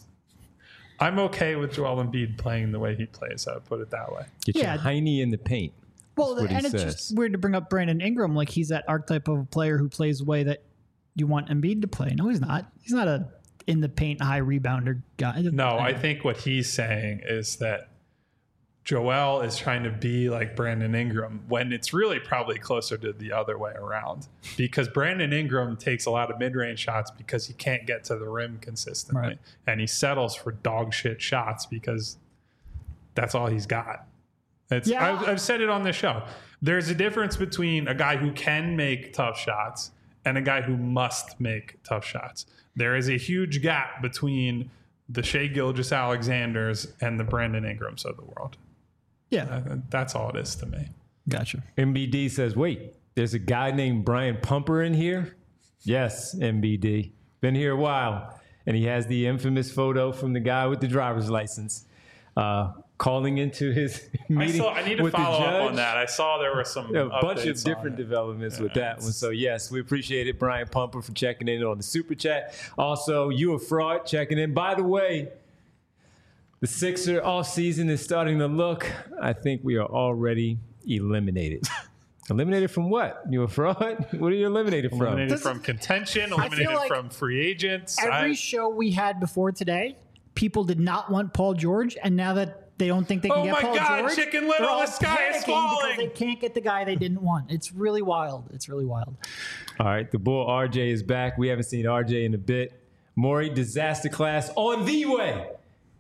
I'm okay with Joel Embiid playing the way he plays. I would put it that way. Get your hiney in the paint. Well, That's what he and it's says. just weird to bring up Brandon Ingram. Like, he's that archetype of a player who plays the way that you want Embiid to play. No, he's not. He's not a in the paint high rebounder guy. No, I think what he's saying is that Joel is trying to be like Brandon Ingram when it's really probably closer to the other way around, because Brandon Ingram takes a lot of mid-range shots because he can't get to the rim consistently. Right. And he settles for dog shit shots because that's all he's got. I've said it on this show. There's a difference between a guy who can make tough shots and a guy who must make tough shots. There is a huge gap between the Shai Gilgeous-Alexanders and the Brandon Ingrams of the world. Yeah. That's all it is to me. Gotcha. MBD says, wait, there's a guy named Brian Pumper in here? Yes, MBD. Been here a while. And he has the infamous photo from the guy with the driver's license calling into his meeting. I need to with follow the judge. up on that. I saw there were some A bunch of updates different on it. developments with that one. So, yes, we appreciate it, Brian Pumper, for checking in on the Super Chat. Also, You a Fraud checking in. By the way, the Sixer offseason is starting to look. I think we are already eliminated. Eliminated from what? You a fraud? What are you eliminated from? Eliminated from contention, eliminated like from free agents. Every show we had before today, people did not want Paul George, and now that They don't think they can Oh get my Paul God, George. Chicken Little, They're all the sky is panicking falling. because they can't get the guy they didn't want. It's really wild. It's really wild. All right, the Bull RJ is back. We haven't seen RJ in a bit. Maury, disaster class on the way.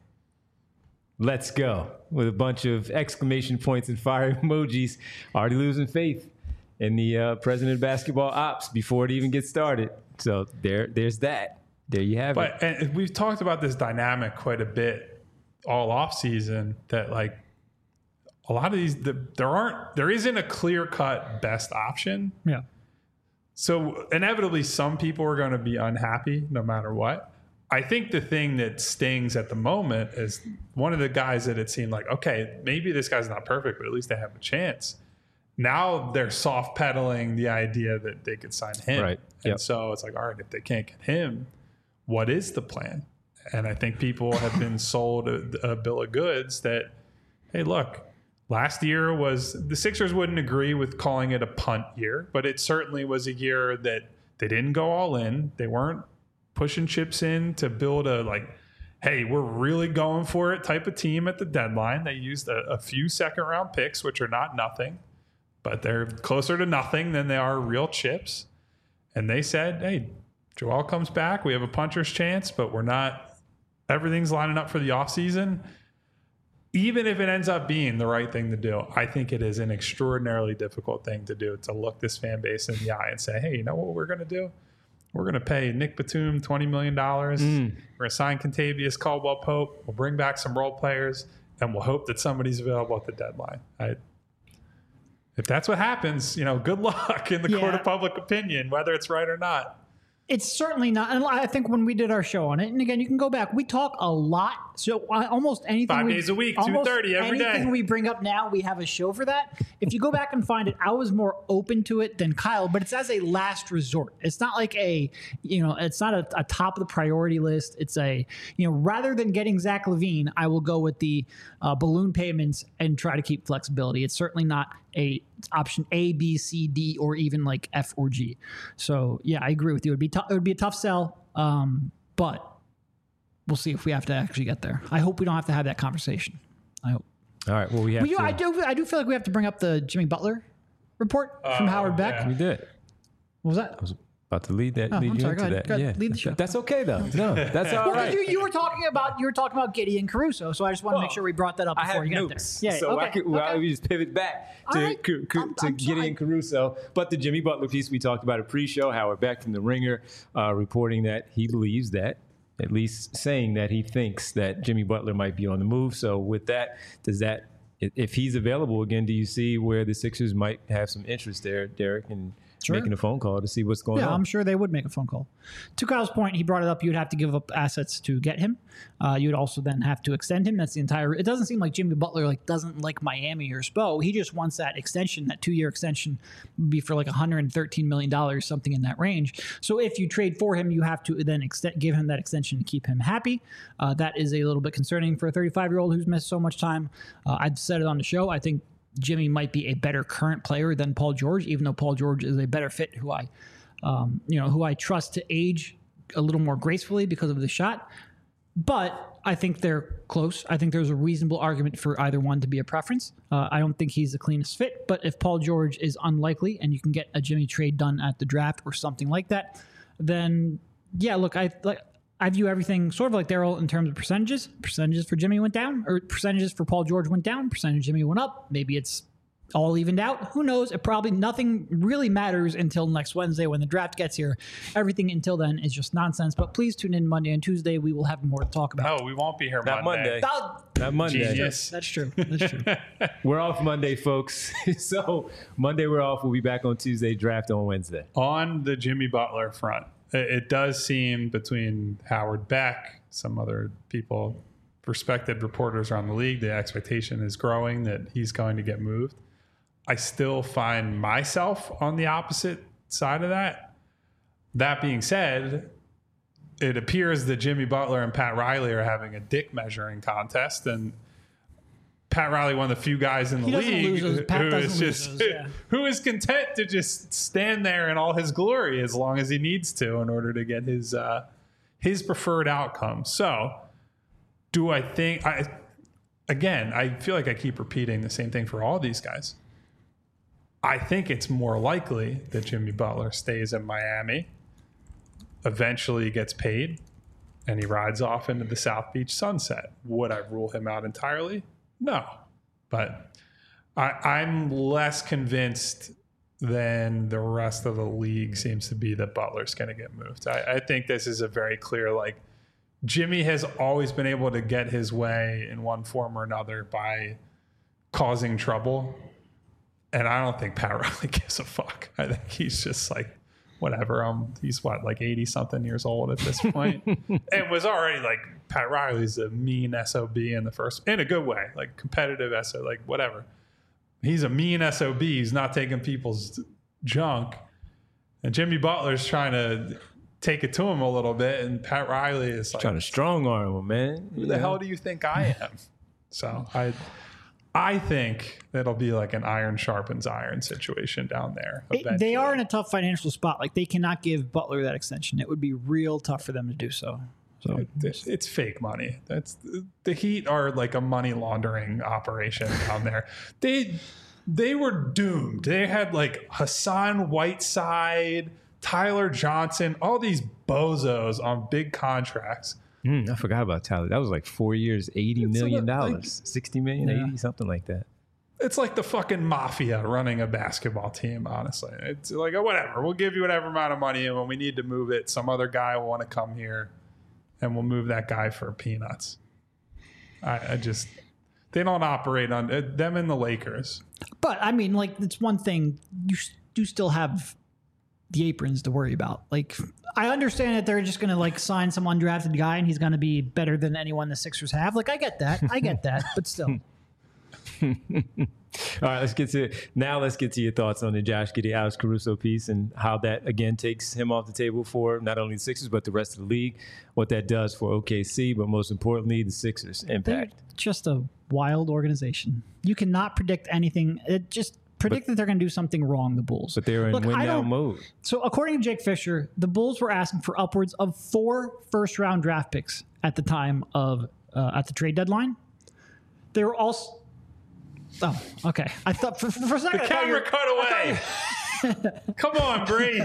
Let's go. With a bunch of exclamation points and fire emojis. Already losing faith in the president of basketball ops before it even gets started. So there's that. There you have it. But and we've talked about this dynamic quite a bit all off season, that like a lot of these, there isn't a clear cut best option. Yeah. So inevitably some people are going to be unhappy no matter what. I think the thing that stings at the moment is one of the guys that it seemed like, okay, maybe this guy's not perfect, but at least they have a chance. Now they're soft pedaling the idea that they could sign him. Right. And Yep. so it's like, all right, if they can't get him, what is the plan? And I think people have been sold a bill of goods that, hey, look, last year was, the Sixers wouldn't agree with calling it a punt year, but it certainly was a year that they didn't go all in. They weren't pushing chips in to build a like, hey, we're really going for it type of team at the deadline. They used a few second round picks, which are not nothing, but they're closer to nothing than they are real chips. And they said, hey, Joel comes back. We have a puncher's chance, but we're not, everything's lining up for the offseason. Even if it ends up being the right thing to do, I think it is an extraordinarily difficult thing to do, to look this fan base in the eye and say, hey, you know what we're going to do? We're going to pay Nick Batum $20 million. We're going to sign Contavious Caldwell-Pope. We'll bring back some role players, and we'll hope that somebody's available at the deadline. If that's what happens, good luck in the court of public opinion, whether it's right or not. It's certainly not. And I think when we did our show on it, and again, you can go back, we talk a lot. So almost anything. 5 days a week, 2:30 every day. Anything we bring up now, we have a show for that. If you go back and find it, I was more open to it than Kyle, but it's as a last resort. It's not like it's not a top of the priority list. It's rather than getting Zach LaVine, I will go with the balloon payments and try to keep flexibility. It's certainly not a option A, B, C, D, or even like F or G. So yeah, I agree with you. It would be a tough sell, but we'll see if we have to actually get there. I hope we don't have to have that conversation. I hope. All right. Well, we have to. I do feel like we have to bring up the Jimmy Butler report from Howard Beck. yeah. We did. What was that? I was about to lead you I'm sorry, into go ahead. that. Go ahead. Yeah. Lead the show. That's okay though. No, that's all Well, right. you were talking about Gideon Caruso, so I just want to make sure we brought that up I before have you get nukes, there. Yeah, so okay, we just pivot back All to, right. I'm Gideon sorry. Caruso. But the Jimmy Butler piece we talked about at pre-show, Howard Beck from The Ringer reporting that he believes that, at least saying that he thinks that Jimmy Butler might be on the move. So with that, if he's available again, do you see where the Sixers might have some interest there, Derek, in making a phone call to see what's going on? I'm sure they would make a phone call. To Kyle's point, he brought it up. You'd have to give up assets to get him. You'd also then have to extend him. That's the entire. It doesn't seem like Jimmy Butler doesn't like Miami or Spo. He just wants that extension. That 2-year extension would be for like $113 million, something in that range. So if you trade for him, you have to then give him that extension to keep him happy. That is a little bit concerning for a 35-year-old who's missed so much time. I've said it on the show. I think Jimmy might be a better current player than Paul George, even though Paul George is a better fit, who I trust to age a little more gracefully because of the shot. But I think they're close. I think there's a reasonable argument for either one to be a preference. I don't think he's the cleanest fit, but if Paul George is unlikely and you can get a Jimmy trade done at the draft or something like that, then yeah, look, I view everything sort of like Daryl in terms of percentages. Percentages for Jimmy went down, or percentages for Paul George went down. Percentage Jimmy went up. Maybe it's all evened out. Who knows? It probably nothing really matters until next Wednesday when the draft gets here. Everything until then is just nonsense. But please tune in Monday and Tuesday. We will have more to talk about. No, we won't be here Not Monday. Oh, Not Monday. Genius. that's true. That's true. We're off Monday, folks. So Monday we're off. We'll be back on Tuesday. Draft on Wednesday. On the Jimmy Butler front, it does seem between Howard Beck, some other people, respected reporters around the league, the expectation is growing that he's going to get moved. I still find myself on the opposite side of that. That being said, it appears that Jimmy Butler and Pat Riley are having a dick measuring contest, and Pat Riley, one of the few guys in the league who is content to just stand there in all his glory as long as he needs to in order to get his preferred outcome. So, do I think again, I feel like I keep repeating the same thing for all these guys. I think it's more likely that Jimmy Butler stays in Miami, eventually gets paid, and he rides off into the South Beach sunset. Would I rule him out entirely? No. But I'm less convinced than the rest of the league seems to be that Butler's going to get moved. I think this is a very clear, like, Jimmy has always been able to get his way in one form or another by causing trouble. And I don't think Pat Riley gives a fuck. I think he's just like, whatever. He's what, like 80 something years old at this point, and was already like, Pat Riley's a mean SOB in a good way, like competitive SOB, like whatever. He's a mean SOB. He's not taking people's junk. And Jimmy Butler's trying to take it to him a little bit. And Pat Riley is like, trying to strong arm him, man. Who the hell do you think I am? So I think it'll be like an iron sharpens iron situation down there. They are in a tough financial spot. Like, they cannot give Butler that extension. It would be real tough for them to do so. So it's fake money. The Heat are like a money laundering operation down there. They were doomed. They had like Hassan Whiteside, Tyler Johnson, all these bozos on big contracts. I forgot about Tyler. That was like 4 years, $80 million, like, $60 million, 80, something like that. It's like the fucking mafia running a basketball team, honestly. It's like, oh, whatever. We'll give you whatever amount of money, and when we need to move it, some other guy will want to come here, and we'll move that guy for peanuts. They don't operate on them and the Lakers. But, I mean, like, it's one thing. You do still have the aprons to worry about. Like, I understand that they're just going to like sign some undrafted guy and he's going to be better than anyone the Sixers have. Like, I get that, but still. All right, let's get to your thoughts on the Josh Giddey, Alex Caruso piece and how that again takes him off the table for not only the Sixers but the rest of the league. What that does for OKC, but most importantly, the Sixers' impact. They're just a wild organization. You cannot predict anything. Predict that they're going to do something wrong, the Bulls. But they're in win-now mode. So according to Jake Fisher, the Bulls were asking for upwards of 4 first-round draft picks at the time of at the trade deadline. They were also... Oh, okay. I thought for a second... The camera cut away. Come on, Bree.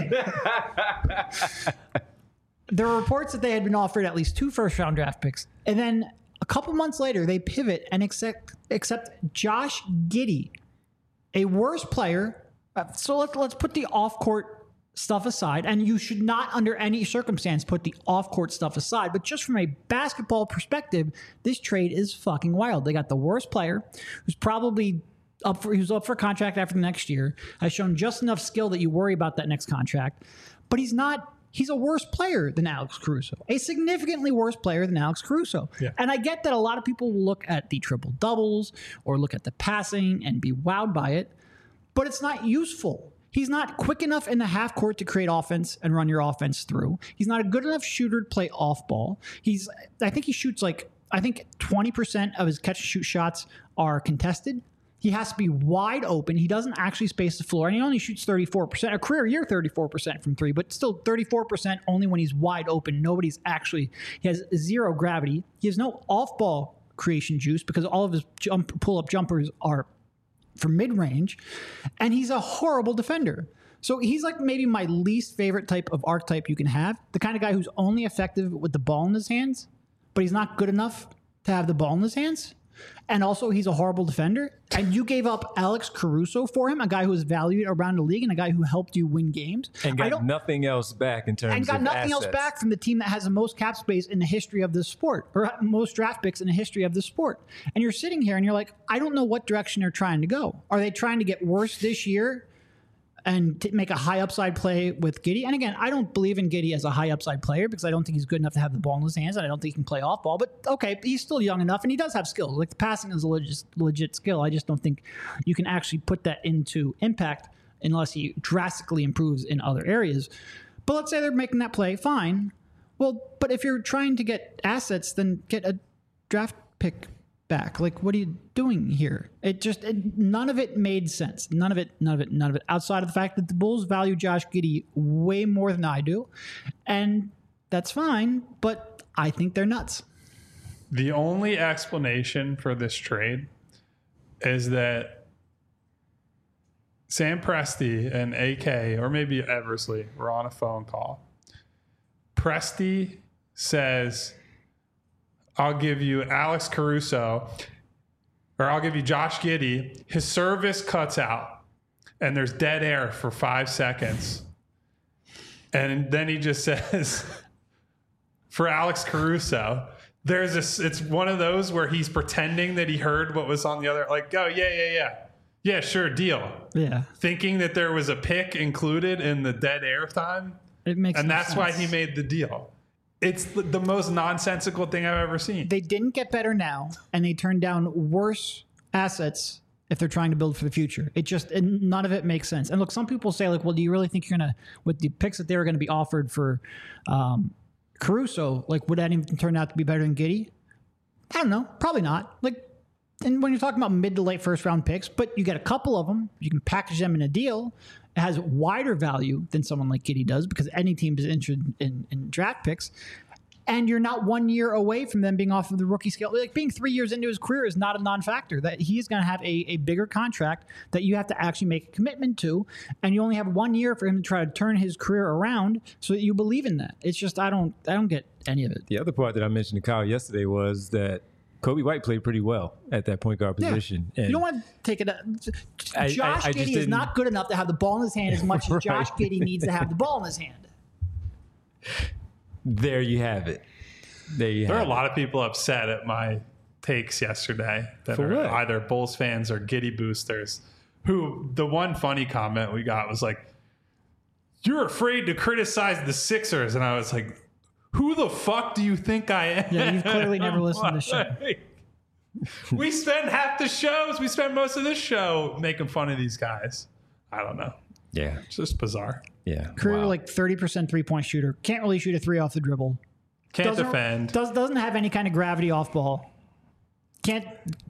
There were reports that they had been offered at least 2 first-round draft picks. And then a couple months later, they pivot and accept Josh Giddey, a worse player. So let's put the off-court stuff aside. And you should not, under any circumstance, put the off-court stuff aside. But just from a basketball perspective, this trade is fucking wild. They got the worst player, who's probably up for contract after the next year, has shown just enough skill that you worry about that next contract. But he's not. He's a worse player than Alex Caruso, a significantly worse player than Alex Caruso. Yeah. And I get that a lot of people will look at the triple doubles or look at the passing and be wowed by it, but it's not useful. He's not quick enough in the half court to create offense and run your offense through. He's not a good enough shooter to play off ball. I think he shoots 20% of his catch and shoot shots are contested. He has to be wide open. He doesn't actually space the floor, and he only shoots 34%, a career year 34% from 3, but still 34% only when he's wide open. He has zero gravity. He has no off-ball creation juice because all of his pull-up jumpers are from mid-range, and he's a horrible defender. So he's like maybe my least favorite type of archetype you can have, the kind of guy who's only effective with the ball in his hands, but he's not good enough to have the ball in his hands. And also, he's a horrible defender. And you gave up Alex Caruso for him, a guy who was valued around the league and a guy who helped you win games. And got nothing else back in terms of assets. And got nothing else back from the team that has the most cap space in the history of this sport, or most draft picks in the history of this sport. And you're sitting here and you're like, I don't know what direction they're trying to go. Are they trying to get worse this year and make a high upside play with Giddey? And again, I don't believe in Giddey as a high upside player because I don't think he's good enough to have the ball in his hands, and I don't think he can play off ball. But okay, he's still young enough, and he does have skills. Like, the passing is a legit skill. I just don't think you can actually put that into impact unless he drastically improves in other areas. But let's say they're making that play, fine. Well, but if you're trying to get assets, then get a draft pick back. Like, what are you doing here? None of it made sense. None of it. Outside of the fact that the Bulls value Josh Giddey way more than I do. And that's fine, but I think they're nuts. The only explanation for this trade is that Sam Presti and AK, or maybe Eversley, were on a phone call. Presti says, I'll give you Alex Caruso, or I'll give you Josh Giddey. His service cuts out, and there's dead air for 5 seconds. And then he just says, for Alex Caruso, it's one of those where he's pretending that he heard what was on the other, like, oh, yeah, sure, deal. Yeah. Thinking that there was a pick included in the dead air time. It makes and no that's sense. why he made the deal. It's the most nonsensical thing I've ever seen. They didn't get better now, and they turned down worse assets if they're trying to build for the future. None of it makes sense. And look, some people say, like, well, do you really think you're going to, with the picks that they were going to be offered for Caruso, like, would that even turn out to be better than Giddey? I don't know. Probably not. Like, and when you're talking about mid to late first round picks, but you get a couple of them, you can package them in a deal. It has wider value than someone like Giddey does because any team is interested in draft picks. And you're not 1 year away from them being off of the rookie scale. Like, being 3 years into his career is not a non-factor. That he's going to have a bigger contract that you have to actually make a commitment to, and you only have 1 year for him to try to turn his career around so that you believe in that. It's just I don't get any of it. The other part that I mentioned to Kyle yesterday was that Kobe White played pretty well at that point guard position. Yeah. And you don't want to take it. Josh Giddey is not good enough to have the ball in his hand as much as Josh Giddey needs to have the ball in his hand. There you have it. There are a lot of people upset at my takes yesterday that For are what? either Bulls fans or Giddey boosters. Who the one funny comment we got was like, "You're afraid to criticize the Sixers," and I was like, "Who the fuck do you think I am?" Yeah, you've clearly never listened to the show. We spend half the shows. We spend most of this show making fun of these guys. I don't know. Yeah. It's just bizarre. Yeah. Career Wow. like 30% 3-point shooter. Can't really shoot a three off the dribble. Can't defend. Doesn't have any kind of gravity off ball. Can't,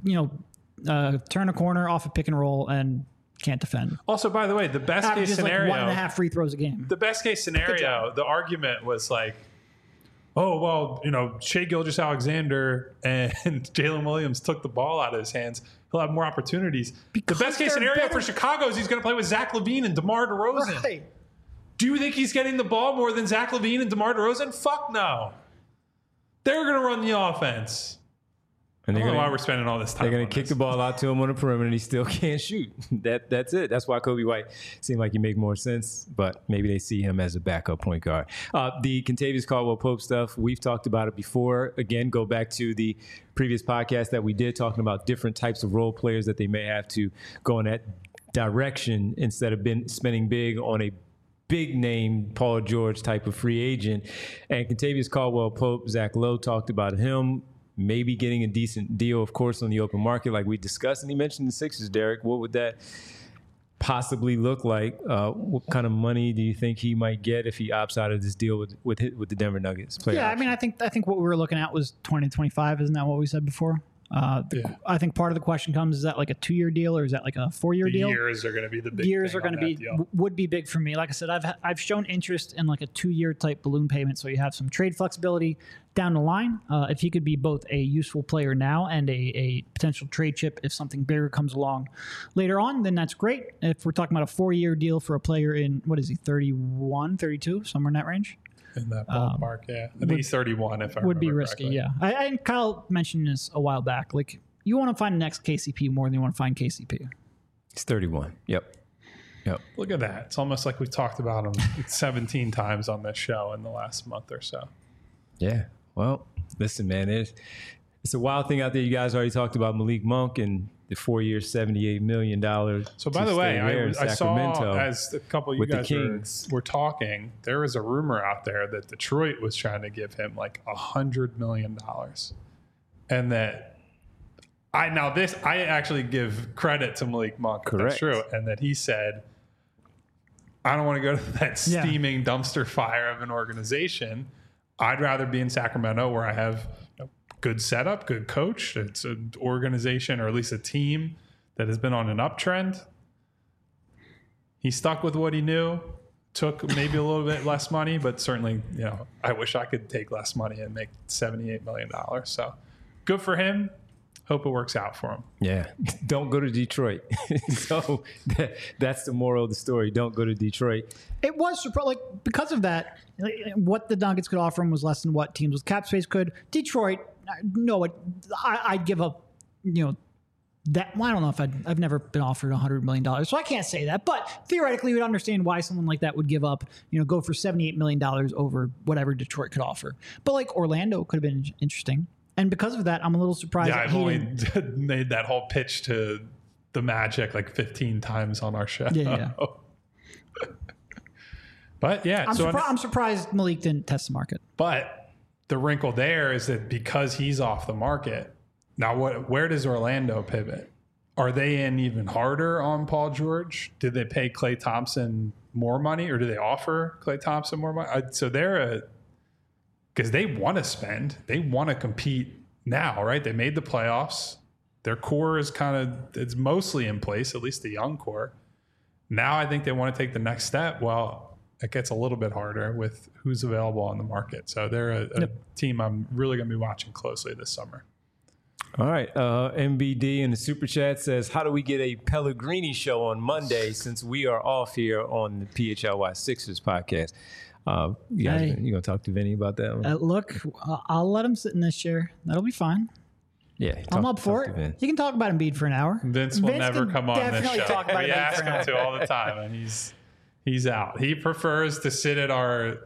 turn a corner off a pick and roll and can't defend. Also, by the way, the best case Averages scenario, like 1.5 free throws a game. the best case scenario, the argument was like, oh, well, Shai Gilgeous-Alexander and Jalen Williams took the ball out of his hands. He'll have more opportunities. Because the best case they're scenario better. for Chicago is he's going to play with Zach LaVine and DeMar DeRozan. Right. Do you think he's getting the ball more than Zach LaVine and DeMar DeRozan? Fuck no. They're going to run the offense. And I they're don't know why gonna, we're spending all this time. they're gonna on kick this. the ball out to him on the perimeter, and he still can't shoot. That's it. That's why Kobe White seemed like he make more sense, but maybe they see him as a backup point guard. The Kentavious Caldwell-Pope stuff, we've talked about it before. Again, go back to the previous podcast that we did talking about different types of role players that they may have to go in that direction instead of spending big on a big name Paul George type of free agent. And Kentavious Caldwell-Pope, Zach Lowe talked about him maybe getting a decent deal, of course, on the open market like we discussed. And he mentioned the Sixers, Derek. What would that possibly look like? What kind of money do you think he might get if he opts out of this deal with the Denver Nuggets? Yeah, I mean, I think what we were looking at was 20 to 25. Isn't that what we said before? I think part of the question comes, is that like a 2-year deal or is that like a 4-year deal? Years are going to be the big Years thing are going on to that be deal. would be big for me. Like I said, I've shown interest in like a 2-year type balloon payment, so you have some trade flexibility down the line. If he could be both a useful player now and a potential trade chip if something bigger comes along later on, then that's great. If we're talking about a 4-year deal for a player in, what is he, 31, 32, somewhere in that range? In that ballpark, yeah. I think he's 31 if I Would be remember risky, correctly. yeah. And Kyle mentioned this a while back. Like, you want to find the next KCP more than you want to find KCP. It's 31. Yep. Look at that. It's almost like we've talked about him 17 times on this show in the last month or so. Yeah. Well, listen, man, it's a wild thing out there. You guys already talked about Malik Monk and the 4-year, $78 million. So, by the way, I saw as a couple of you with the guys Kings. were talking, there was a rumor out there that Detroit was trying to give him like $100 million. And that I actually give credit to Malik Monk. If Correct. that's true. And that he said, I don't want to go to that steaming dumpster fire of an organization. I'd rather be in Sacramento where I have good setup, good coach. It's an organization or at least a team that has been on an uptrend. He stuck with what he knew, took maybe a little bit less money, but certainly, I wish I could take less money and make $78 million. So good for him. Hope it works out for him. Yeah. Don't go to Detroit. So that's the moral of the story. Don't go to Detroit. It was like because of that, what the Nuggets could offer him was less than what teams with cap space could. Detroit, no, I'd give up, that. Well, I don't know if I've never been offered $100 million, so I can't say that. But theoretically, you would understand why someone like that would give up, go for $78 million over whatever Detroit could offer. But like Orlando could have been interesting. And because of that, I'm a little surprised. Yeah, that I've only made that whole pitch to the Magic like 15 times on our show. Yeah. But yeah, I'm surprised Malik didn't test the market. But the wrinkle there is that because he's off the market, now where does Orlando pivot? Are they in even harder on Paul George? Did they pay Klay Thompson more money, or do they offer Klay Thompson more money? So because they want to spend, they want to compete now, right? They made the playoffs. Their core is it's mostly in place, at least the young core. Now I think they want to take the next step. Well, it gets a little bit harder with who's available on the market. So they're a team I'm really going to be watching closely this summer. All right. MBD in the Super Chat says, how do we get a Pellegrini show on Monday since we are off here on the PHLY Sixers podcast? You going to talk to Vinny about that one? Look, I'll let him sit in this chair. That'll be fine. Yeah. I'm up for it. You can talk about Embiid for an hour. Vince will never come on this show. Talk about we ask him to all the time, and he's out. He prefers to sit at our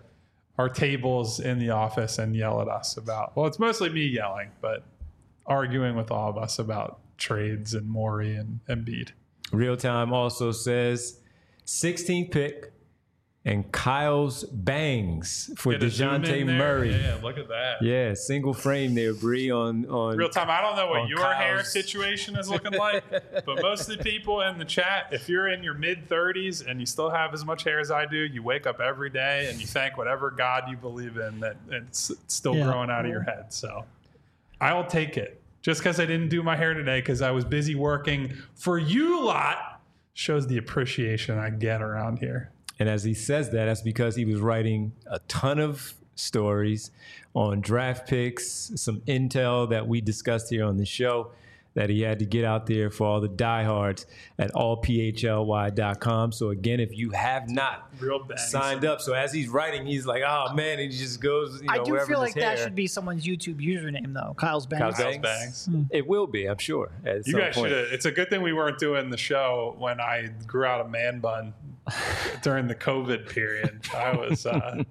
tables in the office and yell at us about, well, it's mostly me yelling, but arguing with all of us about trades and Morey and Embiid. Real Time also says 16th pick and Kyle's bangs for DeJounte Murray. Yeah, look at that. Yeah, single frame there, Bree, on Real Time. I don't know what your Kyle's hair situation is looking like, but most of the people in the chat, if you're in your mid-30s and you still have as much hair as I do, you wake up every day and you thank whatever God you believe in that it's still growing out of your head. So I'll take it. Just because I didn't do my hair today because I was busy working for you lot shows the appreciation I get around here. And as he says that, that's because he was writing a ton of stories on draft picks, some intel that we discussed here on the show that he had to get out there for all the diehards at allphly.com. So again, if you have not signed up, so as he's writing, he's like, oh man, and he just goes, I do feel like that should be someone's YouTube username though. Kyle's Bangs. Kyle's Bangs. It will be, I'm sure. You guys should have. It's a good thing we weren't doing the show when I grew out a man bun during the COVID period. I was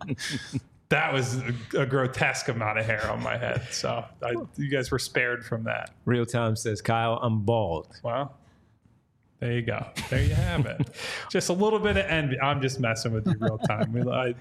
that was a grotesque amount of hair on my head. So you guys were spared from that. Real Time says, Kyle, I'm bald. Well, there you go. There you have it. Just a little bit of envy. I'm just messing with you, Real Time.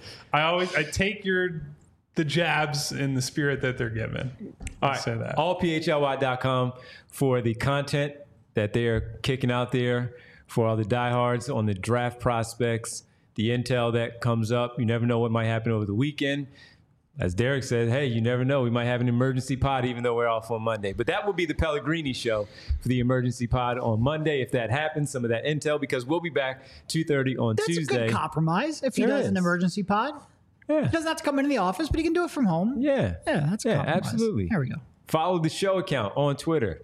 I take the jabs in the spirit that they're given. All right. Say that. Allphly.com for the content that they're kicking out there for all the diehards on the draft prospects, the intel that comes up. You never know what might happen over the weekend. As Derek said, hey, you never know. We might have an emergency pod even though we're off on Monday. But that will be the Pellegrini show for the emergency pod on Monday if that happens, some of that intel, because we'll be back 2:30 on Tuesday. That's a good compromise if he does an emergency pod. Yeah. He doesn't have to come into the office, but he can do it from home. Yeah. Yeah, that's a compromise. Absolutely. There we go. Follow the show account on Twitter,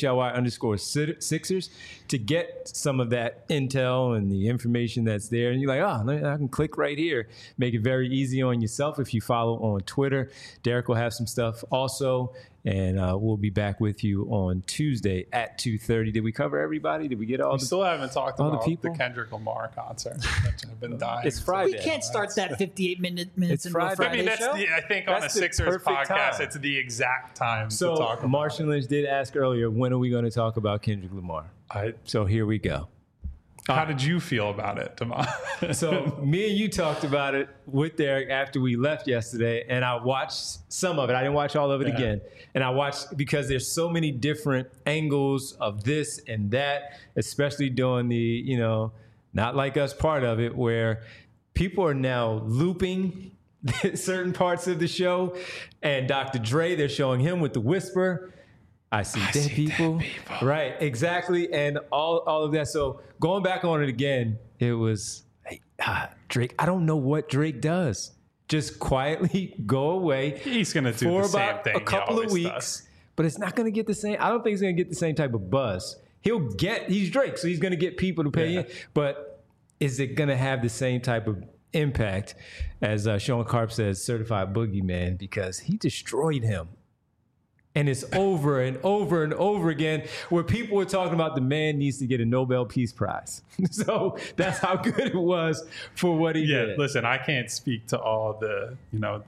PHLY_Sixers, to get some of that intel and the information that's there. And you're like, I can click right here. Make it very easy on yourself if you follow on Twitter. Derek will have some stuff also. And we'll be back with you on Tuesday at 2:30. Did we cover everybody? Did we get all we still haven't talked about the people? The Kendrick Lamar concert, which I've been dying. It's Friday. We can't start that 58 minutes it's into a Friday show. I think on a Sixers podcast, it's the exact time to talk about Martian Lynch did ask earlier, when are we going to talk about Kendrick Lamar? So here we go. How did you feel about it, Tomas? So me and you talked about it with Derek after we left yesterday, and I watched some of it. I didn't watch all of it again. And I watched because there's so many different angles of this and that, especially during the, Not Like Us part of it, where people are now looping certain parts of the show. And Dr. Dre, they're showing him with the whisper. I see dead people. Right, exactly. And all of that. So going back on it again, it was, Drake, I don't know what Drake does. Just quietly go away. He's going to do the same thing for about a couple of weeks. but it's not going to get the same. I don't think it's going to get the same type of buzz. He's Drake, so he's going to get people to pay in, but is it going to have the same type of impact as Sean Karp says, certified boogeyman, because he destroyed him. And it's over and over and over again where people were talking about the man needs to get a Nobel Peace Prize. So that's how good it was for what he did. Listen, I can't speak to all the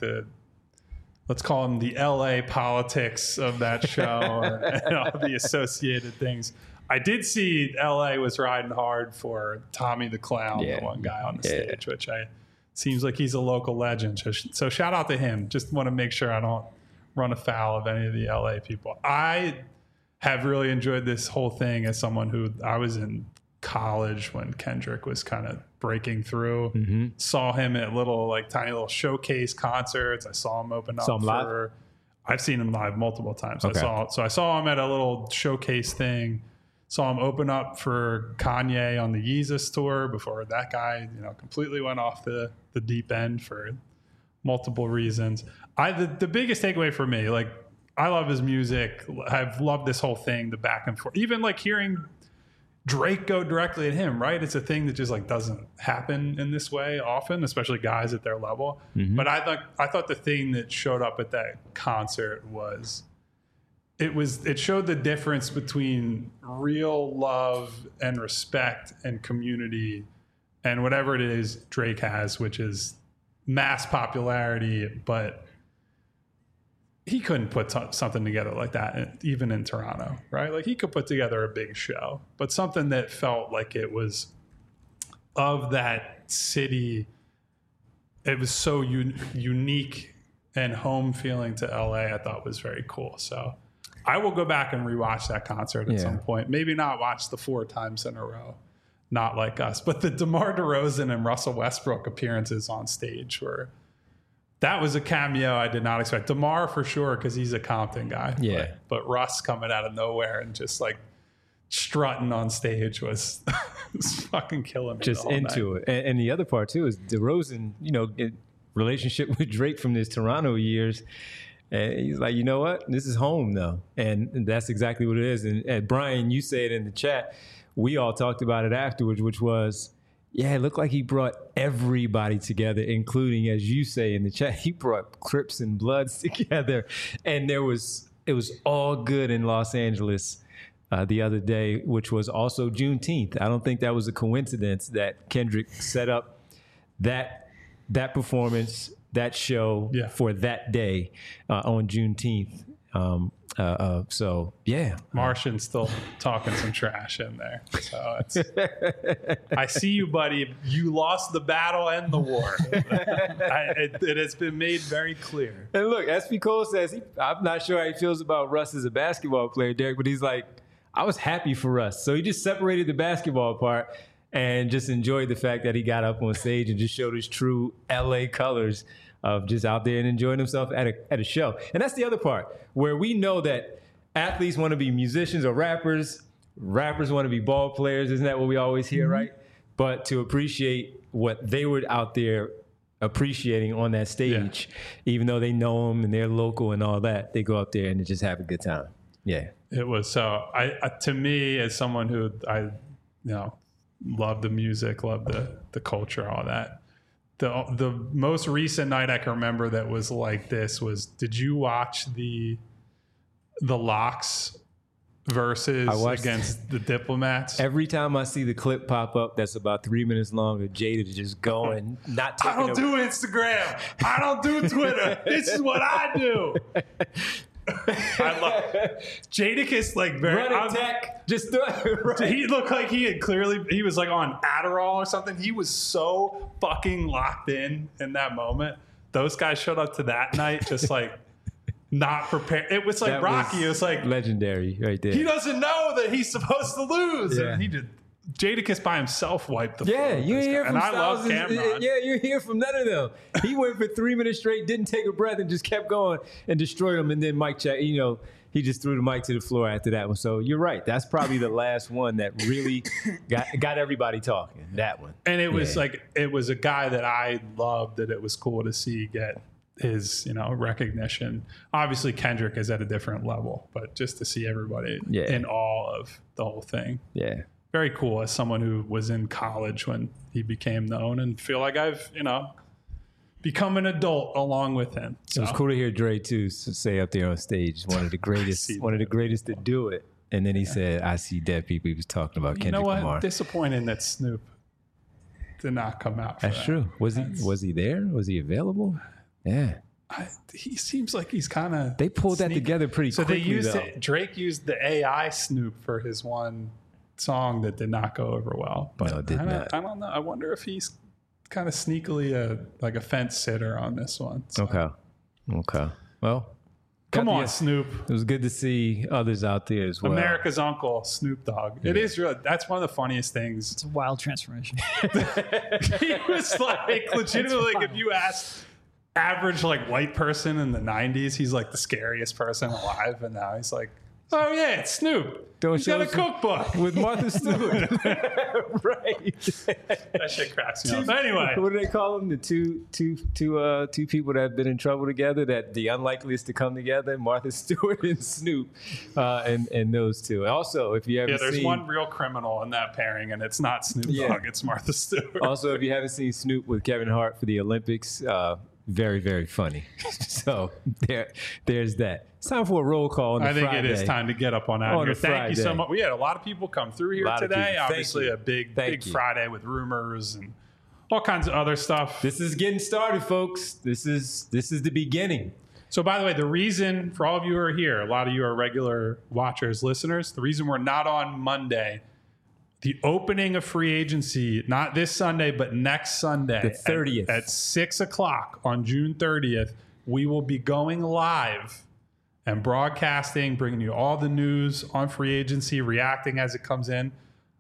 let's call them the LA politics of that show and all the associated things. I did see LA was riding hard for Tommy the Clown, the one guy on the stage, which seems like he's a local legend. So shout out to him. Just want to make sure I don't run afoul of any of the LA people. I have really enjoyed this whole thing as someone who I was in college when Kendrick was kind of breaking through. Mm-hmm. Saw him at tiny little showcase concerts. I saw him open up for. I've seen him live multiple times. Okay. I saw him at a little showcase thing. Saw him open up for Kanye on the Yeezus tour before that guy, completely went off the deep end for multiple reasons. The biggest takeaway for me, I love his music. I've loved this whole thing, the back and forth. Even hearing Drake go directly at him, right? It's a thing that just doesn't happen in this way often, especially guys at their level. Mm-hmm. But I thought the thing that showed up at that concert was it showed the difference between real love and respect and community and whatever it is Drake has, which is mass popularity, but he couldn't put something together like that even in Toronto, right? He could put together a big show, but something that felt like it was of that city. It was so unique and home feeling to LA. I thought was very cool. So I will go back and rewatch that concert at some point. Maybe not watch the 4 times in a row, not like us, but the DeMar DeRozan and Russell Westbrook appearances on stage that was a cameo I did not expect. DeMar for sure, because he's a Compton guy. Yeah. But Russ coming out of nowhere and just strutting on stage was fucking killing me. Just into it. And the other part too is DeRozan, in relationship with Drake from his Toronto years. And he's like, you know what? This is home though. And that's exactly what it is. And Brian, you say it in the chat. We all talked about it afterwards, which was, it looked like he brought everybody together, including, as you say in the chat, he brought Crips and Bloods together. And it was all good in Los Angeles the other day, which was also Juneteenth. I don't think that was a coincidence that Kendrick set up that performance, that show for that day on Juneteenth. Martian's still talking some trash in there. So I see you, buddy. You lost the battle and the war. It has been made very clear. And look, SP Cole says, I'm not sure how he feels about Russ as a basketball player, Derek, but he's like, I was happy for Russ. So he just separated the basketball part and just enjoyed the fact that he got up on stage and just showed his true LA colors of just out there and enjoying himself at a show. And that's the other part where we know that athletes want to be musicians or rappers want to be ball players. Isn't that what we always hear, mm-hmm. right? But to appreciate what they were out there appreciating on that stage, even though they know them and they're local and all that, they go up there and just have a good time. Yeah. It was so, to me, as someone who love the music, love the culture, all that. The most recent night I can remember that was like this was, did you watch the Locks versus against the Diplomats? Every time I see the clip pop up that's about 3 minutes long of Jada just going, not taking I don't do Instagram. I don't do Twitter. This is what I do. I love Jadakiss, very tech. Just He looked like he was on Adderall or something. He was so fucking locked in that moment. Those guys showed up to that night just not prepared. It was like Rocky. It was legendary right there. He doesn't know that he's supposed to lose. Yeah. And he did. Jadakiss by himself wiped the floor. Yeah, you hear from and Styles. I love Cameron. Yeah, you hear from none of them. He went for 3 minutes straight, didn't take a breath, and just kept going and destroyed them. And then Mike check, he just threw the mic to the floor after that one. So you're right. That's probably the last one that really got everybody talking. That one. And it was it was a guy that I loved. That it was cool to see get his, recognition. Obviously Kendrick is at a different level, but just to see everybody in awe of the whole thing. Yeah. Very cool as someone who was in college when he became known, and feel like I've, become an adult along with him. So. It was cool to hear Dre too say up there on stage, one of the greatest to do it. And then he said, "I see dead people." He was talking about Kendrick Lamar. Disappointing that Snoop did not come out. That's true. Was he there? Was he available? Yeah. He seems like he's kind of. They pulled that together pretty quickly. So Drake used the AI Snoop for his one song that did not go over well. But no, it did not. I don't know. I wonder if he's kind of sneakily a fence sitter on this one. So. Okay. Well, come on, Snoop. It was good to see others out there as well. America's Uncle, Snoop Dogg. Yeah. It is real. That's one of the funniest things. It's a wild transformation. He was like legitimately, like, if you asked average white person in the 90s, he's like the scariest person alive, and now he's like, oh yeah, it's Snoop. He's got a cookbook with Martha Stewart. Right. That shit cracks me up. Anyway, what do they call them? The two people that have been in trouble together, that the unlikeliest to come together, Martha Stewart and Snoop, and those two. Also, if you haven't there's one real criminal in that pairing, and it's not Snoop Dogg, it's Martha Stewart. Also, if you haven't seen Snoop with Kevin Hart for the Olympics, very, very funny. So there's that. It's time for a roll call on the Friday. I think it is time to get up on out here. Thank you so much. We had a lot of people come through here today. Obviously, a big Friday with rumors and all kinds of other stuff. This is getting started, folks. This is the beginning. So, by the way, the reason for all of you who are here, a lot of you are regular watchers, listeners, the reason we're not on Monday, the opening of free agency, not this Sunday, but next Sunday. The 30th. At 6 o'clock on June 30th, we will be going live and broadcasting, bringing you all the news on free agency, reacting as it comes in.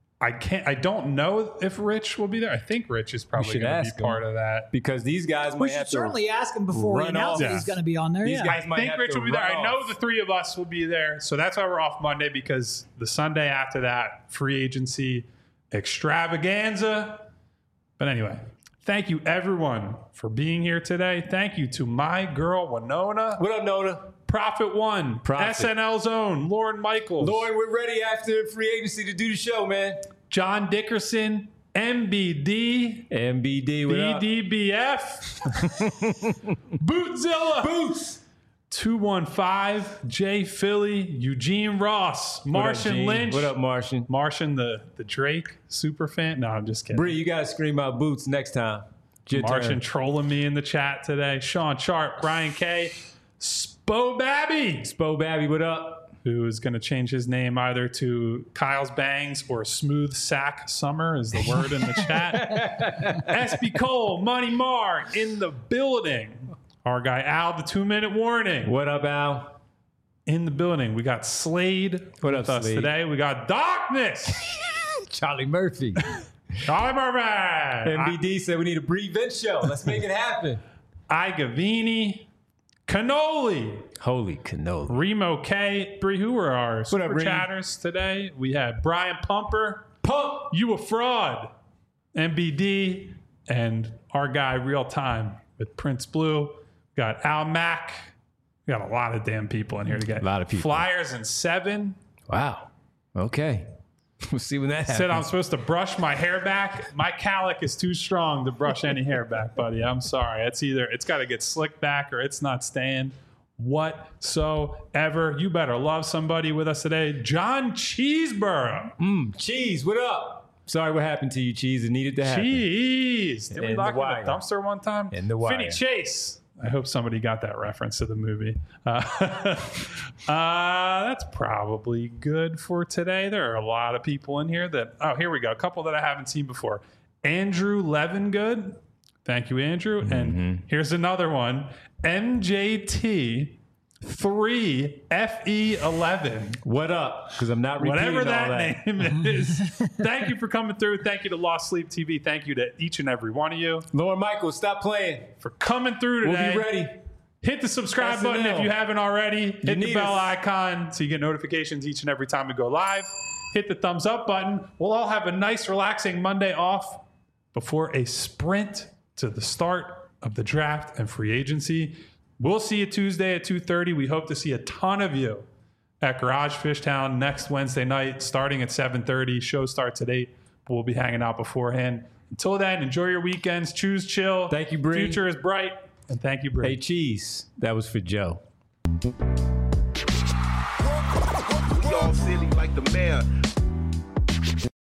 I don't know if Rich will be there. I think Rich is probably going to be part of that. Because these guys might have to certainly ask him before he announces he's going to be on there. These guys might I think Rich will be there. I know the three of us will be there. So that's why we're off Monday, because the Sunday after that, free agency extravaganza. But anyway, thank you everyone for being here today. Thank you to my girl, Winona. What up, Nona? Prophet One, SNL's own, Lauren Michaels. Lauren, we're ready after free agency to do the show, man. John Dickerson, MBD, what up? BDBF, Bootzilla, Boots, 215, Jay Philly, Eugene Ross, Martian Lynch. What up, Martian? Martian, the Drake super fan. No, I'm just kidding. Bree, you got to scream out Boots next time. Martian trolling me in the chat today. Sean Sharp, Brian K, Spo Babby, what up? Who is going to change his name either to Kyle's Bangs or Smooth Sack Summer is the word in the chat. SB Cole, Money Mar in the building. Our guy Al, the 2-minute warning. What up, Al? In the building. We got Slade with us today. We got Darkness. Charlie Murphy. MBD said we need a Bree Vince show. Let's make it happen. Igavini. Cannoli. Holy cannoli. Remo K. Bree, who were our super chatters today? We had Brian Pumper. Pump, you a fraud. MBD. And our guy, Real Time with Prince Blue. We got Al Mack. We got a lot of damn people in here to get. A lot of people. Flyers in 7. Wow. Okay. We'll see when that happens. Said I'm supposed to brush my hair back. My calic is too strong to brush any hair back, buddy. I'm sorry. It's got to get slicked back or it's not staying whatsoever. You better love somebody with us today. John Cheeseborough. Cheese, what up? Sorry what happened to you, Cheese. It needed to happen. Cheese. Did we lock in the dumpster one time? In the wire. Finny Chase. I hope somebody got that reference to the movie. That's probably good for today. There are a lot of people in here that... Oh, here we go. A couple that I haven't seen before. Andrew Levingood. Thank you, Andrew. And here's another one. MJT 3 FE11. What up? Because I'm not repeating whatever all that name is. Thank you for coming through. Thank you to Lost Sleep TV. Thank you to each and every one of you. Lauren Michaels, stop playing. For coming through today. We'll be ready. Hit the subscribe button if you haven't already. Hit the bell icon so you get notifications each and every time we go live. Hit the thumbs up button. We'll all have a nice, relaxing Monday off before a sprint to the start of the draft and free agency. We'll see you Tuesday at 2:30. We hope to see a ton of you at Garage Fishtown next Wednesday night, starting at 7:30. Show starts at 8, but we'll be hanging out beforehand. Until then, enjoy your weekends. Choose chill. Thank you, Bree. Future is bright. And thank you, Bree. Hey, Cheese. That was for Joe. Y'all silly like the mayor.